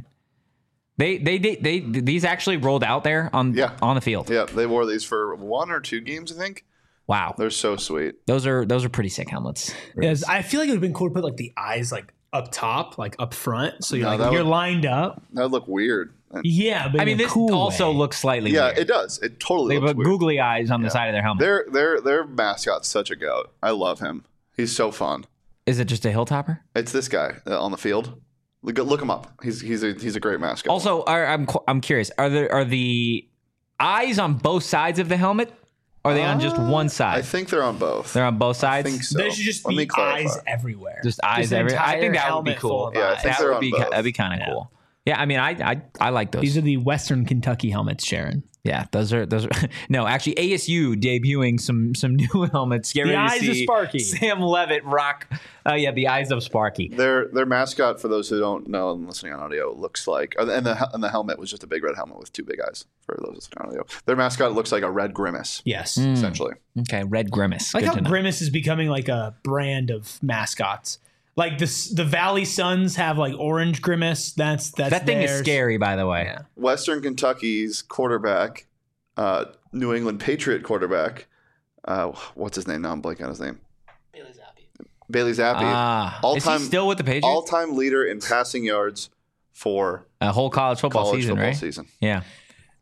These actually rolled out there on the field. Yeah, they wore these for 1 or 2 games, I think. Wow, they're so sweet. Those are pretty sick helmets. Yes, I feel like it would have been cool to put like the eyes like up top, like up front, so you're lined up. That would look weird. Yeah, but I mean, this cool also looks slightly weird. It does. It totally looks weird. Googly eyes on the side of their helmet. Their mascot's such a goat. I love him. He's so fun. Is it just a Hilltopper? It's this guy on the field. Look him up. He's a great mascot. Also, I'm curious. Are the eyes on both sides of the helmet? Or are they on just one side? I think they're on both. They're on both sides? I think so. There should just be eyes everywhere. Just eyes everywhere. I think that would be cool. Yeah, I think that'd be kind of cool. Yeah, I mean, I like those. These are the Western Kentucky helmets, Sharon. Yeah, those are no, actually ASU debuting some new helmets. Get ready to see eyes of Sparky. Sam Levitt rock. The eyes of Sparky. Their mascot, for those who don't know and listening on audio, looks like and the helmet was just a big red helmet with 2 big eyes. For those listening on audio, their mascot looks like a red grimace. Yes, essentially. Okay, red grimace. Like how Grimace is becoming like a brand of mascots. Like the Valley Suns have like orange Grimace. That thing is scary, by the way. Yeah. Western Kentucky's quarterback, New England Patriot quarterback, what's his name? Now I'm blanking on his name. Bailey Zappi. Is he still with the Patriots? All-time leader in passing yards for a whole college football season, right? Season. Yeah.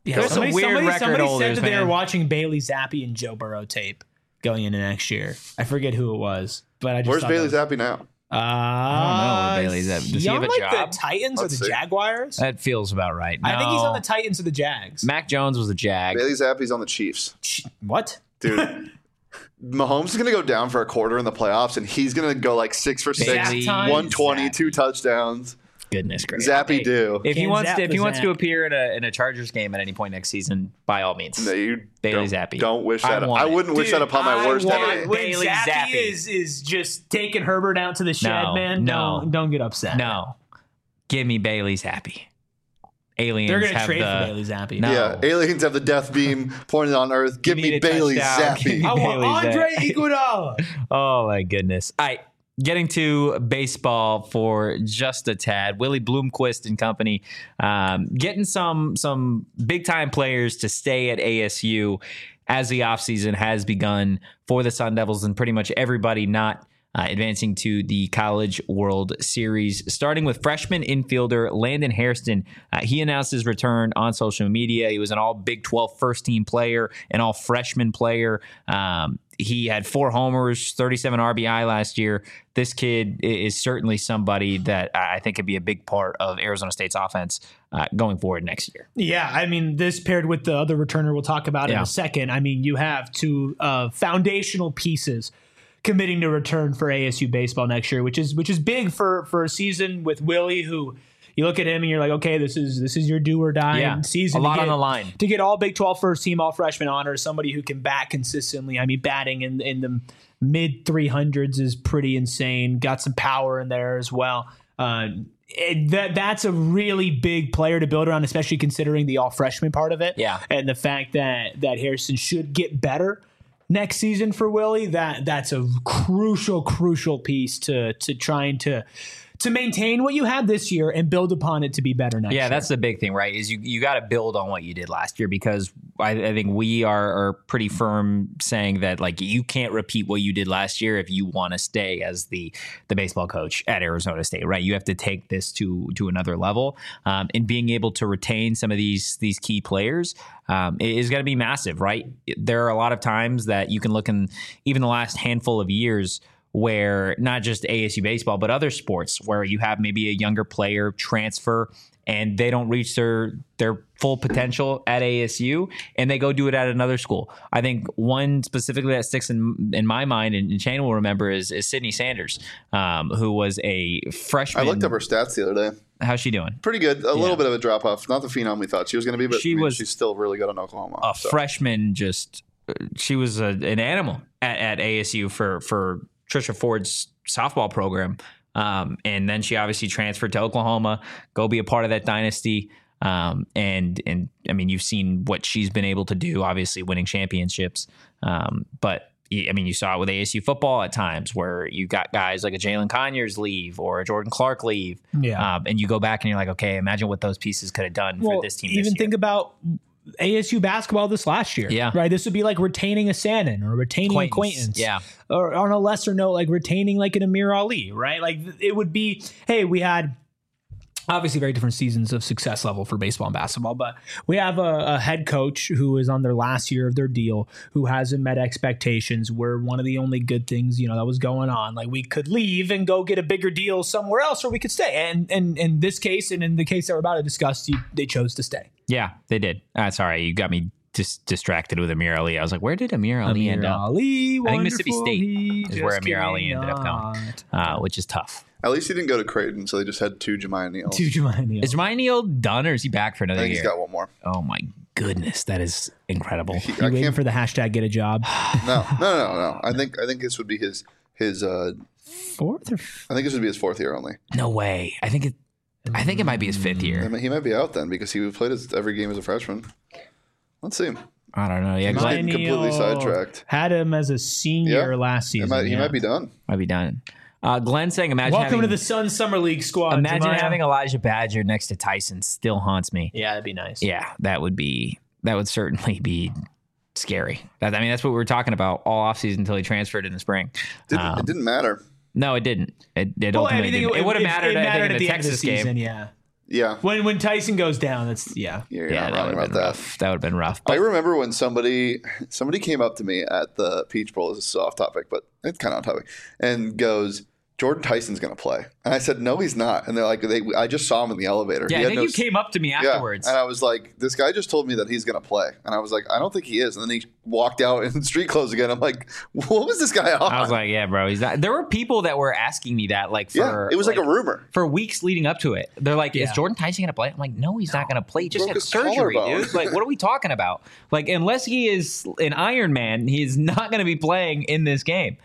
Yeah, There's somebody a weird record said holders, that they were man. watching Bailey Zappi and Joe Burrow tape going into next year. I forget who it was, but I just Where's Bailey Zappi now? I don't know where Bailey Zappi. Does he have a like job? the Titans Let's or the see. Jaguars? That feels about right. I think he's No. on the Titans or the Jags. Mac Jones was a Jag. Bailey Zappi's on the Chiefs. What? Dude, Mahomes is going to go down for a quarter in the playoffs, and he's going to go like 6 for 6, Bailey 120, Zappi. 2 touchdowns. Goodness gracious. Zappy do. If he Can't wants zap to, if the he wants to Zap. appear in a Chargers game at any point next season, by all means, No, you Bailey don't, Zappi. Don't wish I that. want I it. wouldn't wish that upon my worst enemy. When Bailey Zappi Zappi. is just taking Herbert out to the shed, No, man. no. Don't get upset. No, give me Bailey Zappi. Aliens They're gonna have trade the for Bailey Zappi. No. Yeah, aliens have the death beam pointed on Earth. Give me a Bailey touchdown. Give Zappi. me I want Bailey Andre Zappi. Iguodala. Oh my goodness. All right. Getting to baseball for just a tad, Willie Bloomquist and company getting some big time players to stay at ASU as the offseason has begun for the Sun Devils, and pretty much everybody not advancing to the College World Series, starting with freshman infielder Landon Hairston. He announced his return on social media. He was an all Big 12 first team player, an all freshman player. He had 4 homers, 37 RBI last year. This kid is certainly somebody that I think could be a big part of Arizona State's offense going forward next year. Yeah, I mean, this paired with the other returner we'll talk about in a second. I mean, you have 2 foundational pieces committing to return for ASU baseball next year, which is big for a season with Willie, who you look at him and you're like, okay, this is your do or die season. A lot on the line. To get all Big 12 first team, all freshman honors, somebody who can bat consistently. I mean, batting in the mid 300s is pretty insane. Got some power in there as well. That's a really big player to build around, especially considering the all freshman part of it. Yeah. And the fact that Harrison should get better next season for Willie, that's a crucial piece to trying to maintain what you had this year and build upon it to be better next year. Yeah, that's the big thing, right? Is you got to build on what you did last year, because I think we are pretty firm saying that like you can't repeat what you did last year if you want to stay as the baseball coach at Arizona State, right? You have to take this to another level, and being able to retain some of these key players is going to be massive, right? There are a lot of times that you can look in even the last handful of years where not just ASU baseball, but other sports where you have maybe a younger player transfer and they don't reach their full potential at ASU and they go do it at another school. I think one specifically that sticks in my mind, and Shane will remember, is Sydney Sanders, who was a freshman. I looked up her stats the other day. How's she doing? Pretty good. A little bit of a drop off. Not the phenom we thought she was going to be, but she's still really good on Oklahoma. A freshman, she was an animal at ASU for Trisha Ford's softball program. And then she obviously transferred to Oklahoma, go be a part of that dynasty. And I mean, you've seen what she's been able to do, obviously winning championships. But I mean, you saw it with ASU football at times where you got guys like a Jalen Conyers leave or a Jordan Clark leave. Yeah. And you go back and you're like, okay, imagine what those pieces could have done for this team. Even think about ASU basketball this last year. Yeah. Right. This would be like retaining a Sandin or retaining acquaintance. Yeah. Or on a lesser note, like retaining like an Amir Ali, right? Like it would be, hey, we had obviously very different seasons of success level for baseball and basketball, but we have a head coach who is on their last year of their deal, who hasn't met expectations. We're one of the only good things, that was going on. Like we could leave and go get a bigger deal somewhere else, or we could stay. And in this case, and in the case that we're about to discuss, they chose to stay. Yeah, they did. Sorry, you got me distracted with Amir Ali. I was like, where did Amir Ali end up? I think Mississippi State is where Amir Ali ended up going, which is tough. At least he didn't go to Creighton, so they just had 2 Jemiah Neals. Is Jemiah Neal done, or is he back for another year? I think he's got one more. Oh my goodness, that is incredible. You waiting for the hashtag get a job? No. I think this would be his fourth. I think this would be his 4th year only. No way. I think it might be his 5th year. I mean, he might be out then because he played every game as a freshman. Let's see. I don't know. Yeah, he's getting completely sidetracked. Had him as a senior last season. He might be done. Might be done. Glenn saying, welcome to the Sun Summer League squad. Imagine having Elijah Badger next to Tyson. Still haunts me. Yeah, that'd be nice. Yeah, that would certainly be scary. That's what we were talking about all offseason until he transferred in the spring. It didn't matter. No, it didn't. It ultimately didn't. It would have mattered, I think, in the Texas game. Yeah. Yeah. When Tyson goes down, that's You're that not wrong about that. Rough. That would have been rough. I remember when somebody came up to me at the Peach Bowl. This is off topic, but it's kind of on topic, and goes, Jordan Tyson's going to play. And I said, no, he's not. And they're like, I just saw him in the elevator. Yeah, I think you came up to me afterwards. Yeah. And I was like, this guy just told me that he's going to play. And I was like, I don't think he is. And then he walked out in street clothes again. I'm like, what was this guy on? I was like, yeah, bro, he's not. There were people that were asking me that, like, for it was like a rumor. For weeks leading up to it. They're like, is Jordan Tyson going to play? I'm like, no, he's not going to play. He just had surgery, dude. Like, what are we talking about? Like, unless he is an Iron Man, he is not going to be playing in this game.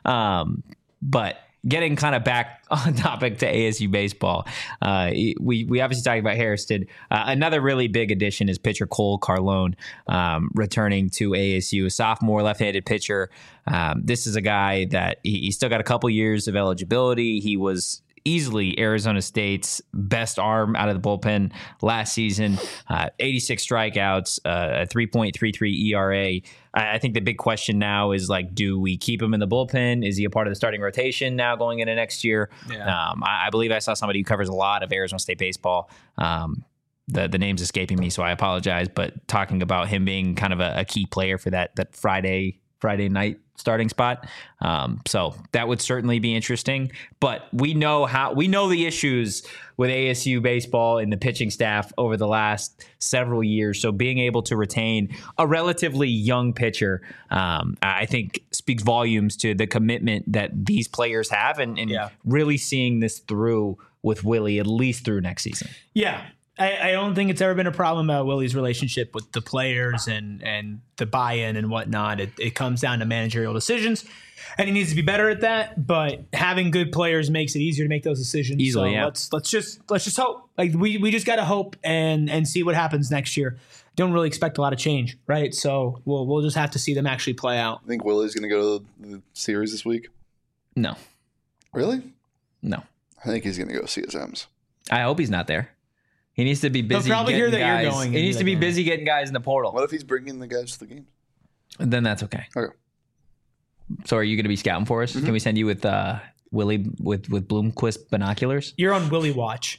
But getting kind of back on topic to ASU baseball, we obviously talking about Hairston. Another really big addition is pitcher Cole Carlone, returning to ASU, a sophomore left-handed pitcher. This is a guy that he still got a couple years of eligibility. He was easily Arizona State's best arm out of the bullpen last season. 86 strikeouts, a 3.33 ERA. I think the big question now is, like, do we keep him in the bullpen? Is he a part of the starting rotation now going into next year? Yeah. I believe I saw somebody who covers a lot of Arizona State baseball. The name's escaping me, so I apologize. But talking about him being kind of a key player for that Friday night starting spot. So that would certainly be interesting, but we know the issues with ASU baseball and the pitching staff over the last several years. So being able to retain a relatively young pitcher, I think speaks volumes to the commitment that these players have and really seeing this through with Willie, at least through next season. Yeah. I don't think it's ever been a problem about Willie's relationship with the players and the buy-in and whatnot. It comes down to managerial decisions, and he needs to be better at that. But having good players makes it easier to make those decisions. Easily, yeah. Let's just hope. Like we just got to hope and see what happens next year. Don't really expect a lot of change, right? So we'll just have to see them actually play out. I think Willie's going to go to the series this week. No. Really? No. I think he's going to go CSMs. I hope he's not there. He needs to be busy. They'll probably hear that guys. You're going. He needs to be busy getting guys in the portal. What if he's bringing the guys to the games? Then that's okay. Okay. So are you going to be scouting for us? Mm-hmm. Can we send you with Willie with Bloomquist binoculars? You're on Willie watch.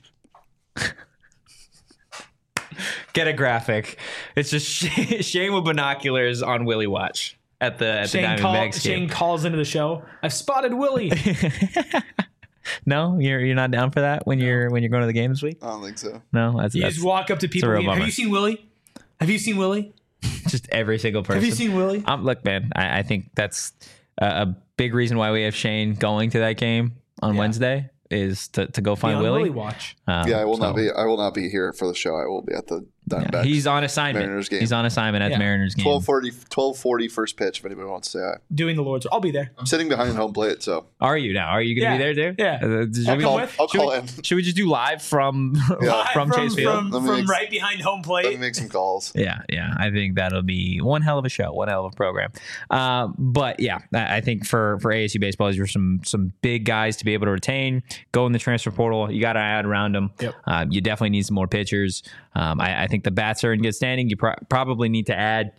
Get a graphic. It's just Shane with binoculars on Willie watch at the Diamondbacks game. Shane calls into the show. I've spotted Willie. No, you're not down for that when you're going to the game this week? I don't think so. No, you just walk up to people. Have you seen Willie? Have you seen Willie? Just every single person. Have you seen Willie? Look, man, I think that's a big reason why we have Shane going to that game on Wednesday is to go find Willie. Watch. I will not be here for the show. I will be at the Diamondbacks. He's on assignment. Mariners game. He's on assignment at the Mariners game. 12:40 first pitch. If anybody wants to say hi. Doing the Lord's. I'll be there. I'm sitting behind home plate. So are you now? Are you going to be there, dude? Yeah. I'll call in. Should we just do live from Chase Field? From right behind home plate. Let me make some calls. Yeah. I think that'll be one hell of a show, one hell of a program. But yeah, I think for ASU baseball, these are some big guys to be able to retain. Go in the transfer portal. You got to add around them. Yep. You definitely need some more pitchers. I think the bats are in good standing. You probably need to add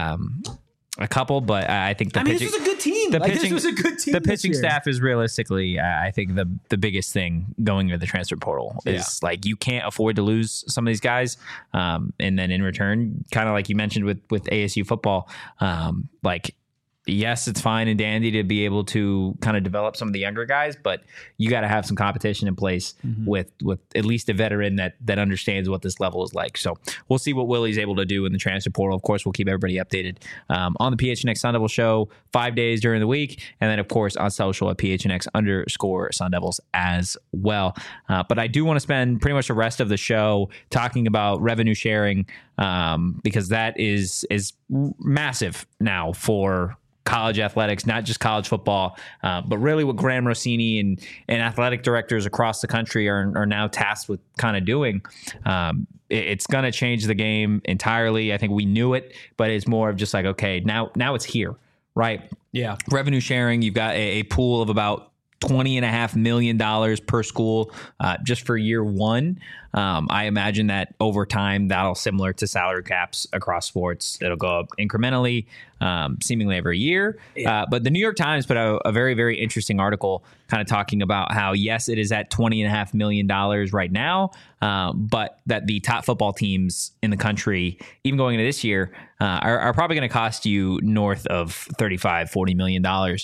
a couple, but I think this was a good team. This was a good team. The pitching staff is realistically, I think the biggest thing going into the transfer portal is like you can't afford to lose some of these guys, and then in return, kind of like you mentioned with ASU football, like. Yes, it's fine and dandy to be able to kind of develop some of the younger guys, but you got to have some competition in place with at least a veteran that understands what this level is like. So we'll see what Willie's able to do in the transfer portal. Of course, we'll keep everybody updated on the PHNX Sun Devil Show 5 days during the week, and then of course on social at PHNX_Sun Devils as well. But I do want to spend pretty much the rest of the show talking about revenue sharing because that is massive now for college athletics, not just college football, but really what Graham Rossini and athletic directors across the country are now tasked with kind of doing. It's going to change the game entirely. I think we knew it, but it's more of just like, okay, now it's here, right? Yeah. Revenue sharing, you've got a pool of about $20.5 million per school just for year one. I imagine that over time, that'll similar to salary caps across sports. It'll go up incrementally, seemingly every year. Yeah. But the New York Times put out a very, very interesting article kind of talking about how, yes, it is at $20.5 million right now, but that the top football teams in the country, even going into this year, are probably going to cost you north of $35-40 million.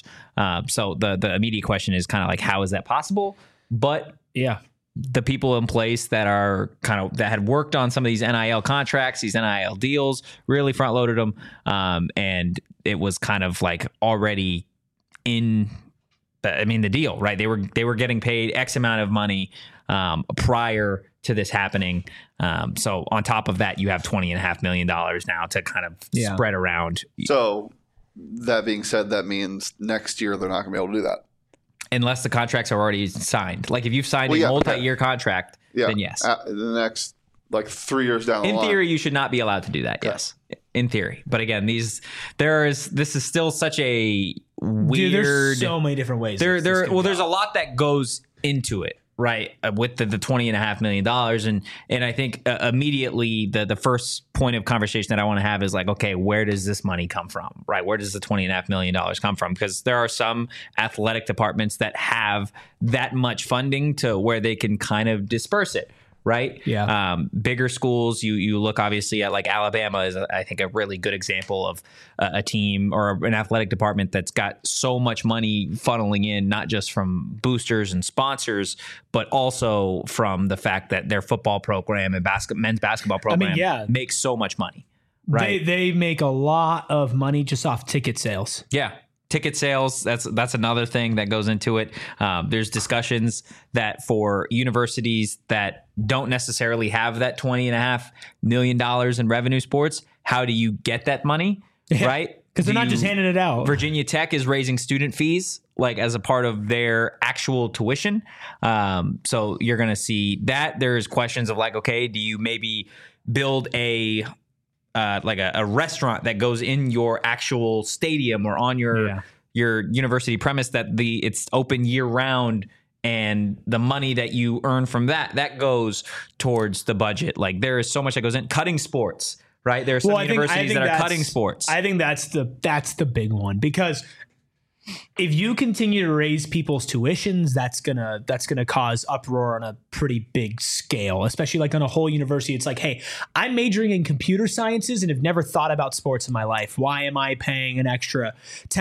So the immediate question is kind of like, how is that possible? But yeah, the people in place that are that had worked on some of these NIL contracts, these NIL deals, really front loaded them. And it was kind of like already in the deal, right? They were getting paid X amount of money prior to this happening. So on top of that, you have $20.5 million now to kind of spread around. So that being said, that means next year they're not going to be able to do that. Unless the contracts are already signed. Like if you've signed a multi-year contract, then yes. The next 3 years down the line. In theory, you should not be allowed to do that. Yes. In theory. But again, this is still such a weird. Dude, there's so many different ways. There's a lot that goes into it. Right, with the $20.5 million, and I think immediately the first point of conversation that I want to have is like, okay, where does this money come from? Right, where does the $20.5 million come from? Because there are some athletic departments that have that much funding to where they can kind of disperse it. Right. Yeah. Bigger schools, you look obviously at like Alabama is, I think, a really good example of a team or an athletic department that's got so much money funneling in, not just from boosters and sponsors, but also from the fact that their football program and men's basketball program makes so much money. Right. They make a lot of money just off ticket sales. Yeah. Ticket sales, that's another thing that goes into it. There's discussions that for universities that don't necessarily have that $20.5 million in revenue sports, how do you get that money, right? Because they're not just handing it out. Virginia Tech is raising student fees like as a part of their actual tuition. So you're going to see that. There's questions of like, okay, do you maybe build a restaurant that goes in your actual stadium or on your university premise that it's open year round, and the money that you earn from that goes towards the budget. Like there is so much that goes in cutting sports, right? There are some universities that are cutting sports. I think that's the big one, because if you continue to raise people's tuitions, that's gonna cause uproar on a pretty big scale, especially like on a whole university. It's like, hey, I'm majoring in computer sciences and have never thought about sports in my life. Why am I paying an extra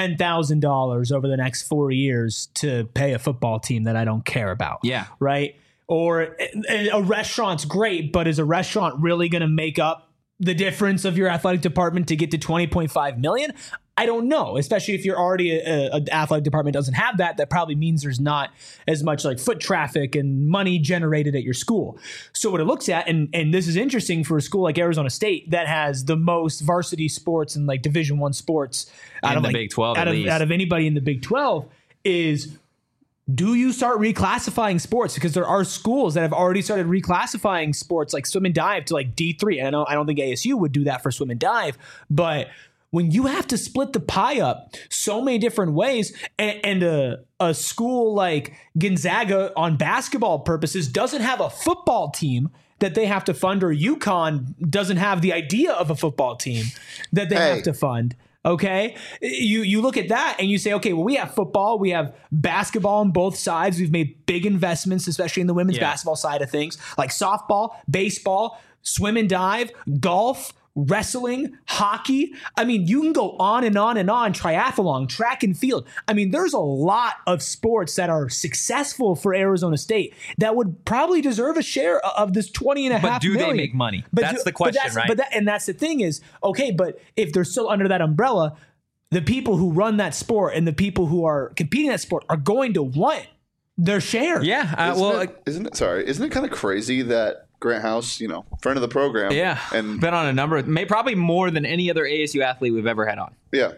$10,000 over the next 4 years to pay a football team that I don't care about? Yeah. Right. Or a restaurant's great, but is a restaurant really going to make up the difference of your athletic department to get to $20.5 million? I don't know, especially if you're already an athletic department doesn't have that probably means there's not as much like foot traffic and money generated at your school. So what it looks at, and this is interesting for a school like Arizona State that has the most varsity sports and like Division I sports out of the Big 12, out of anybody in the Big 12, is do you start reclassifying sports? Because there are schools that have already started reclassifying sports like swim and dive to like D3. And I don't think ASU would do that for swim and dive, but when you have to split the pie up so many different ways, and a school like Gonzaga on basketball purposes doesn't have a football team that they have to fund, or UConn doesn't have the idea of a football team that they have to fund. Okay, you look at that and you say, okay, well, we have football, we have basketball on both sides. We've made big investments, especially in the women's basketball side of things, like softball, baseball, swim and dive, golf, wrestling, hockey. I mean, you can go on and on and on. Triathlon, track and field. I mean, there's a lot of sports that are successful for Arizona State that would probably deserve a share of this $20.5 million. But do they make money? That's the question, right? And that's the thing is, okay, but if they're still under that umbrella, the people who run that sport and the people who are competing in that sport are going to want their share. Yeah. Isn't it kind of crazy that Grant House, friend of the program. Yeah. And been on a number of, probably more than any other ASU athlete we've ever had on. Yeah.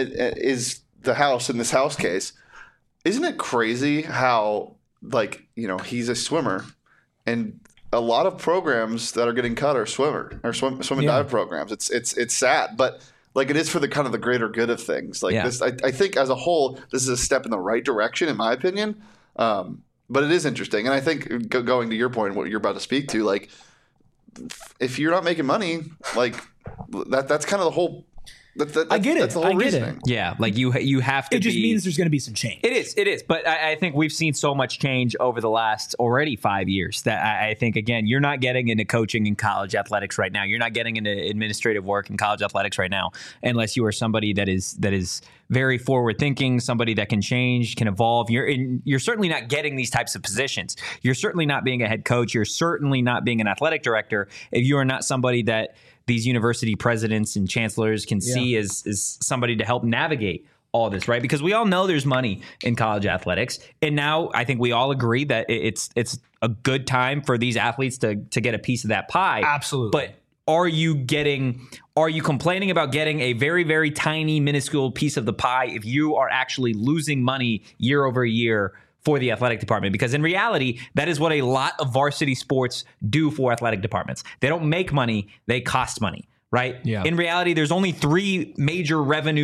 Is the House, in this House case, isn't it crazy how, he's a swimmer, and a lot of programs that are getting cut are swim and dive programs. It's sad, but it is for the kind of the greater good of things. This, I think as a whole, this is a step in the right direction, in my opinion. But it is interesting. And I think going to your point, what you're about to speak to, like, if you're not making money, like that's kind of the whole. I get it. That's the whole reasoning. It. Yeah, like you have to. It just means there's going to be some change. It is. But I think we've seen so much change over the last already 5 years that I think, again, you're not getting into coaching in college athletics right now. You're not getting into administrative work in college athletics right now, unless you are somebody that is very forward thinking, somebody that can change, can evolve. You're certainly not getting these types of positions. You're certainly not being a head coach. You're certainly not being an athletic director if you are not somebody that these university presidents and chancellors can see as somebody to help navigate all this, right? Because we all know there's money in college athletics. And now I think we all agree that it's a good time for these athletes to get a piece of that pie. Absolutely. But are you complaining about getting a very, very tiny, minuscule piece of the pie if you are actually losing money year over year for the athletic department? Because in reality, that is what a lot of varsity sports do for athletic departments. They don't make money, they cost money, right? Yeah. In reality, there's only 3 major revenue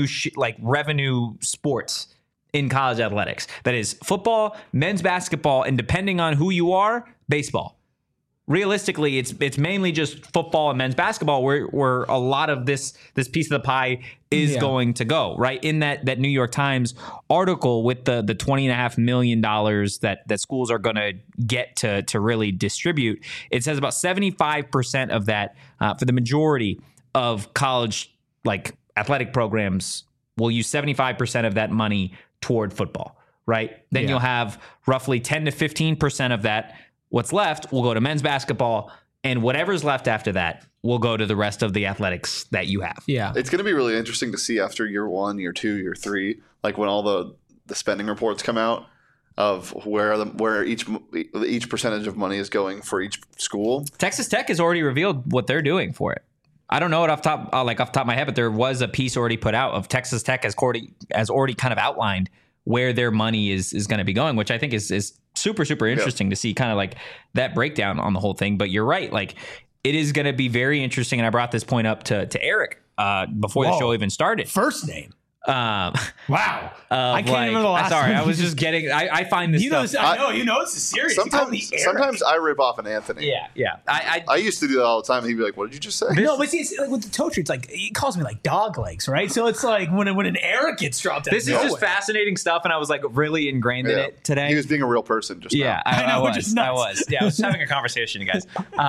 sports in college athletics. That is football, men's basketball, and depending on who you are, baseball. Realistically, it's mainly just football and men's basketball where a lot of this piece of the pie is going to go, right? In that New York Times article with the $20.5 million that schools are going to get to really distribute, it says about 75% of that for the majority of college like athletic programs will use 75% of that money toward football, right? Then you'll have roughly 10 to 15% of that. What's left will go to men's basketball, and whatever's left after that will go to the rest of the athletics that you have. Yeah. It's going to be really interesting to see after year 1, year 2, year 3, like when all the spending reports come out of where each percentage of money is going for each school. Texas Tech has already revealed what they're doing for it. I don't know it off the top of my head, but there was a piece already put out of Texas Tech has already kind of outlined where their money is going to be going, which I think is super, super interesting to see kind of like that breakdown on the whole thing. But you're right. Like it is going to be very interesting. And I brought this point up to Eric before the show even started. First name. Wow. I can't remember the last sorry, one. I was just getting, I find this stuff. I know, this is serious. Sometimes I rip off an Anthony. Yeah. I used to do that all the time. He'd be like, what did you just say? No, but see, it's like with the Tocher, it's like, he calls me like dog legs, right? So it's like when an Eric gets dropped out. This is just fascinating stuff, and I was like really ingrained in it today. He was being a real person just now. I was. Yeah, I was having a conversation, you guys.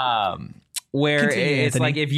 Where it's Anthony. Like if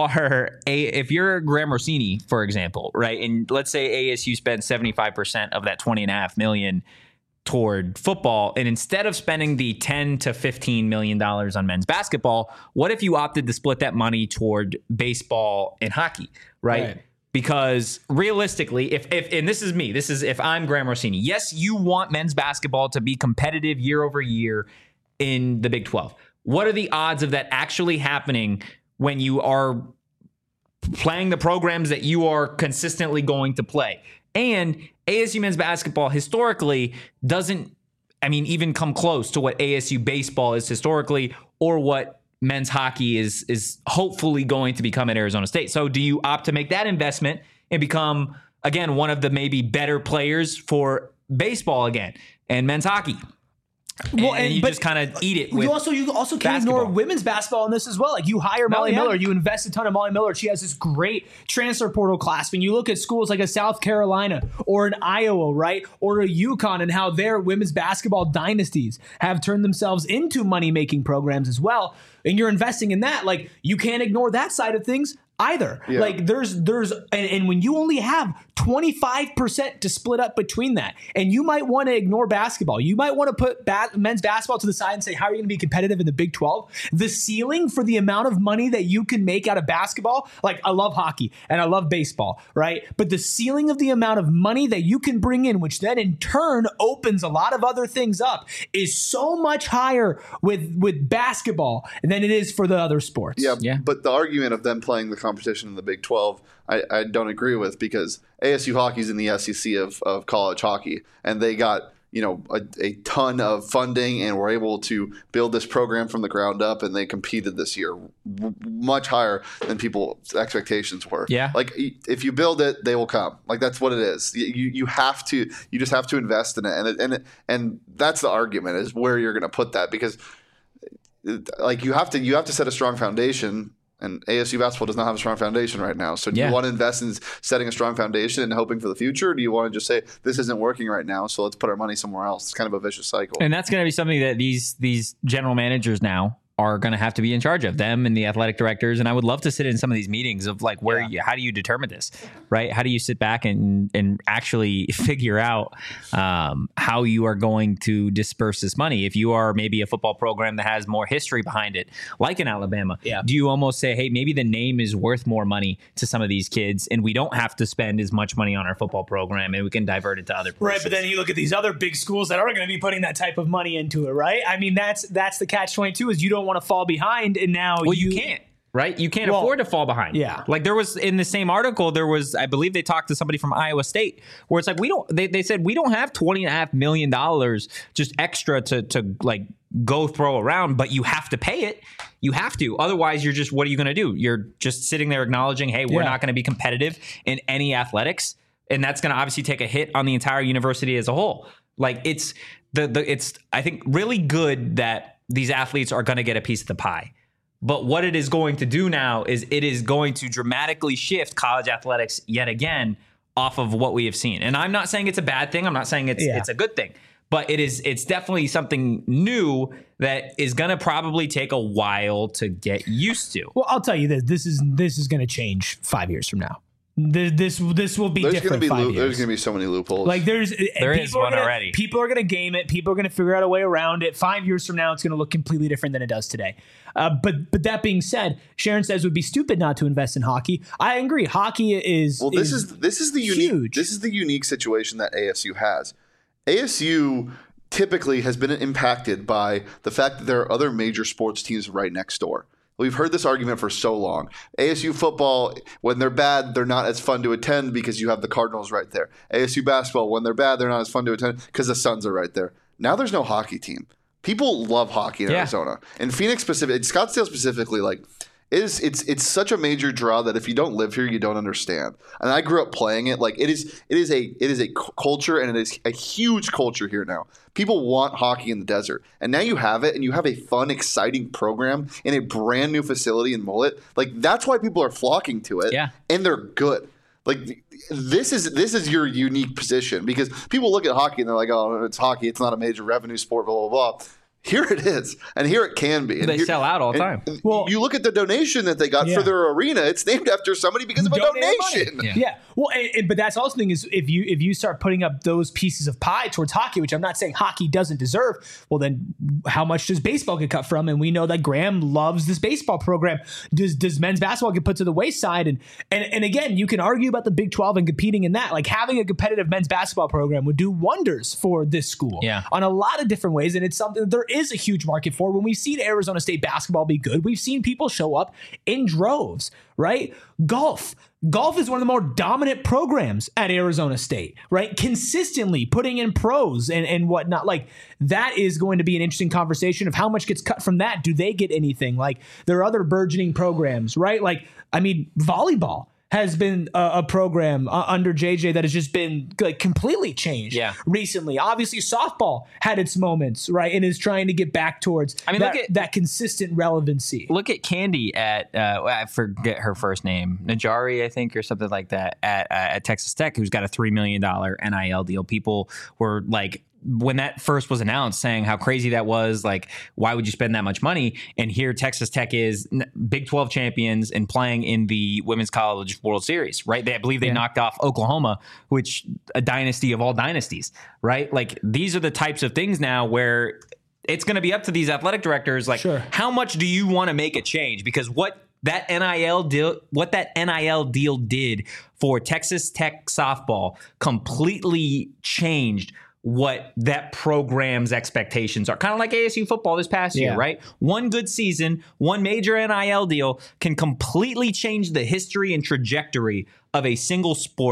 you're Graham Rossini, for example, right, and let's say ASU spends 75% of that $20.5 million toward football, and instead of spending the $10 to $15 million on men's basketball, what if you opted to split that money toward baseball and hockey, right? Because realistically, if and this is if I'm Graham Rossini, yes, you want men's basketball to be competitive year over year in the Big 12. What are the odds of that actually happening when you are playing the programs that you are consistently going to play? And ASU men's basketball historically doesn't, even come close to what ASU baseball is historically or what men's hockey is hopefully going to become at Arizona State. So do you opt to make that investment and become, again, one of the maybe better players for baseball again and men's hockey? Well, and you just kind of eat it with you also can't ignore women's basketball in this as well. Like you hire Molly Miller, you invest a ton in Molly Miller. She has this great transfer portal class. When you look at schools like a South Carolina or an Iowa, right, or a UConn, and how their women's basketball dynasties have turned themselves into money-making programs as well, and you're investing in that, like you can't ignore that side of things either. Yeah. Like there's and when you only have 25% to split up between that, and you might want to ignore basketball, you might want to put men's basketball to the side and say, how are you going to be competitive in the Big 12? The ceiling for the amount of money that you can make out of basketball, like I love hockey and I love baseball, right? But the ceiling of the amount of money that you can bring in, which then in turn opens a lot of other things up, is so much higher with basketball than it is for the other sports. Yeah. But the argument of them playing the competition in the Big 12, I don't agree with, because ASU hockey's in the SEC of college hockey, and they got a ton of funding and were able to build this program from the ground up, and they competed this year much higher than people's expectations were. Yeah. Like if you build it, they will come. Like that's what it is. You just have to invest in it. And that's the argument, is where you're going to put that, because like you have to set a strong foundation. And ASU basketball does not have a strong foundation right now. So do you want to invest in setting a strong foundation and hoping for the future? Or do you want to just say, this isn't working right now, so let's put our money somewhere else? It's kind of a vicious cycle. And that's going to be something that these general managers now are going to have to be in charge of, them and the athletic directors. And I would love to sit in some of these meetings of like, how do you determine this, right? How do you sit back and actually figure out how you are going to disperse this money? If you are maybe a football program that has more history behind it, like in Alabama, do you almost say, hey, maybe the name is worth more money to some of these kids, and we don't have to spend as much money on our football program, and we can divert it to other places. Right, but then you look at these other big schools that are going to be putting that type of money into it, right? I mean, that's the catch-22, is you don't want to fall behind, and now you can't. Right? You can't afford to fall behind. Yeah. Like there was in the same article, I believe they talked to somebody from Iowa State where it's like, they said, we don't have $20.5 million just extra to like go throw around, but you have to pay it. You have to. Otherwise, what are you going to do? You're just sitting there acknowledging, hey, we're not going to be competitive in any athletics. And that's going to obviously take a hit on the entire university as a whole. Like it's I think really good that these athletes are going to get a piece of the pie. But what it is going to do now is it is going to dramatically shift college athletics yet again off of what we have seen. And I'm not saying it's a bad thing. I'm not saying it's a good thing. But it's definitely something new that is going to probably take a while to get used to. Well, I'll tell you this. This is going to change 5 years from now. This will be different. 5 years. There's going to be so many loopholes. Like there is one already. People are going to game it. People are going to figure out a way around it. 5 years from now, it's going to look completely different than it does today. But that being said, Sharon says it would be stupid not to invest in hockey. I agree. Hockey is this is the unique. This is the unique situation that ASU has. ASU typically has been impacted by the fact that there are other major sports teams right next door. We've heard this argument for so long. ASU football, when they're bad, they're not as fun to attend because you have the Cardinals right there. ASU basketball, when they're bad, they're not as fun to attend because the Suns are right there. Now there's no hockey team. People love hockey in Arizona. And Phoenix specifically, Scottsdale specifically, like it's such a major draw that if you don't live here, you don't understand. And I grew up playing it. Like it is a culture, and it is a huge culture here now. People want hockey in the desert, and now you have it, and you have a fun, exciting program in a brand new facility in Mullet. Like that's why people are flocking to it. Yeah, and they're good. Like this is your unique position, because people look at hockey and they're like, oh, it's hockey. It's not a major revenue sport. Blah blah blah. Here it is, and here it can be. And they sell out all the time. Well, you look at the donation that they got for their arena; it's named after somebody because of a donation. Yeah. Well, but that's also the thing is if you start putting up those pieces of pie towards hockey, which I'm not saying hockey doesn't deserve. Well, then how much does baseball get cut from? And we know that Graham loves this baseball program. Does men's basketball get put to the wayside? And again, you can argue about the Big 12 and competing in that. Like having a competitive men's basketball program would do wonders for this school on a lot of different ways, and it's something there is a huge market for. When we've seen Arizona State basketball be good, we've seen people show up in droves, right? Golf is one of the more dominant programs at Arizona State, right? Consistently putting in pros and whatnot. Like that is going to be an interesting conversation of how much gets cut from that. Do they get anything? Like there are other burgeoning programs, right? Like, I mean, volleyball has been a program under JJ that has just been like completely changed recently. Obviously, softball had its moments, right, and is trying to get back towards that consistent relevancy. Look at Candy at I forget her first name, Najari, I think, or something like that, at Texas Tech, who's got a $3 million NIL deal. People were like, when that first was announced, saying how crazy that was, like, why would you spend that much money? And here Texas Tech is Big 12 champions and playing in the Women's College World Series, right? I believe they knocked off Oklahoma, which a dynasty of all dynasties, right? Like these are the types of things now where it's going to be up to these athletic directors. Like, how much do you want to make a change? Because what that NIL deal did for Texas Tech softball completely changed what that program's expectations are. Kind of like ASU football this past year, right? One good season, one major NIL deal can completely change the history and trajectory of a single sport.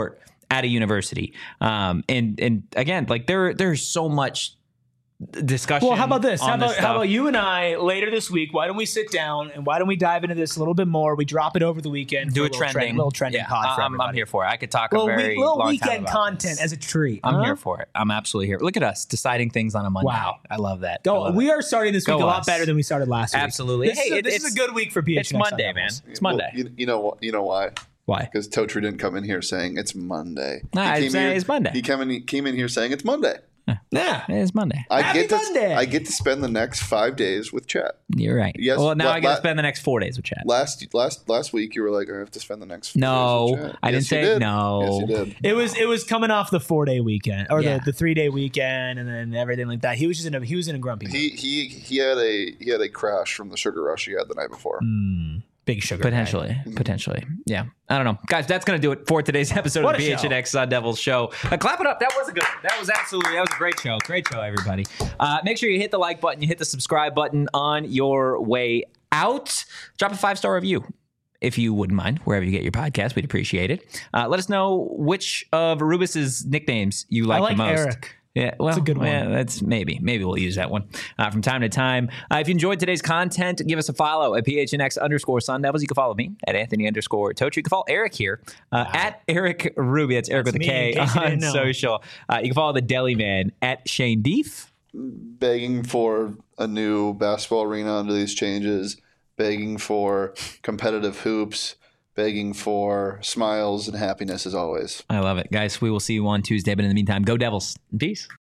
at a university. And again, like there's so much discussion. Well, how about this? How this about you and I later this week? Why don't we sit down and why don't we dive into this a little bit more? We drop it over the weekend. Do a little trending pod for everybody. I'm here for it. I could talk little a very little long weekend time about content this. as a treat. I'm here for it. I'm absolutely here. Look at us deciding things on a Monday. Wow. I love that. We are starting this week a lot better than we started last week. Absolutely. This is a good week for PHNX. It's Monday, man. It's Monday. Well, you know why? Why? Because Totri didn't come in here saying it's Monday. I'm saying it's Monday. He came in here saying it's Monday. Yeah, it's Monday. Monday. I get to spend the next 5 days with Chet. You're right. Yes. Well, now I get to spend the next 4 days with Chet. Last week you were like, I have to spend the next 4 days with Chet. I didn't say no. Yes, you did. It was coming off the 4-day weekend or Yeah. the 3-day weekend and then everything like that. He was in a grumpy mood. He had a crash from the sugar rush he had the night before. Big sugar. Potentially. Yeah. I don't know. Guys, that's going to do it for today's episode of the PHNX Sun Devils show. Clap it up. That was a good one. That was a great show. Great show, everybody. Make sure you hit the like button. You hit the subscribe button on your way out. Drop a 5-star review, if you wouldn't mind, wherever you get your podcast. We'd appreciate it. Let us know which of Rubus's nicknames you like the most. Eric. Yeah, well, that's a good one. Yeah, that's maybe we'll use that one from time to time. If you enjoyed today's content, give us a follow at PHNX_Sun Devils. You can follow me at Anthony_Totri. You can follow Eric here at Eric Ruby. That's Eric with a K on social. You can follow the Deli Man at Shane Deef. Begging for a new basketball arena under these changes, begging for competitive hoops, begging for smiles and happiness as always. I love it. Guys, we will see you on Tuesday. But in the meantime, go Devils. Peace.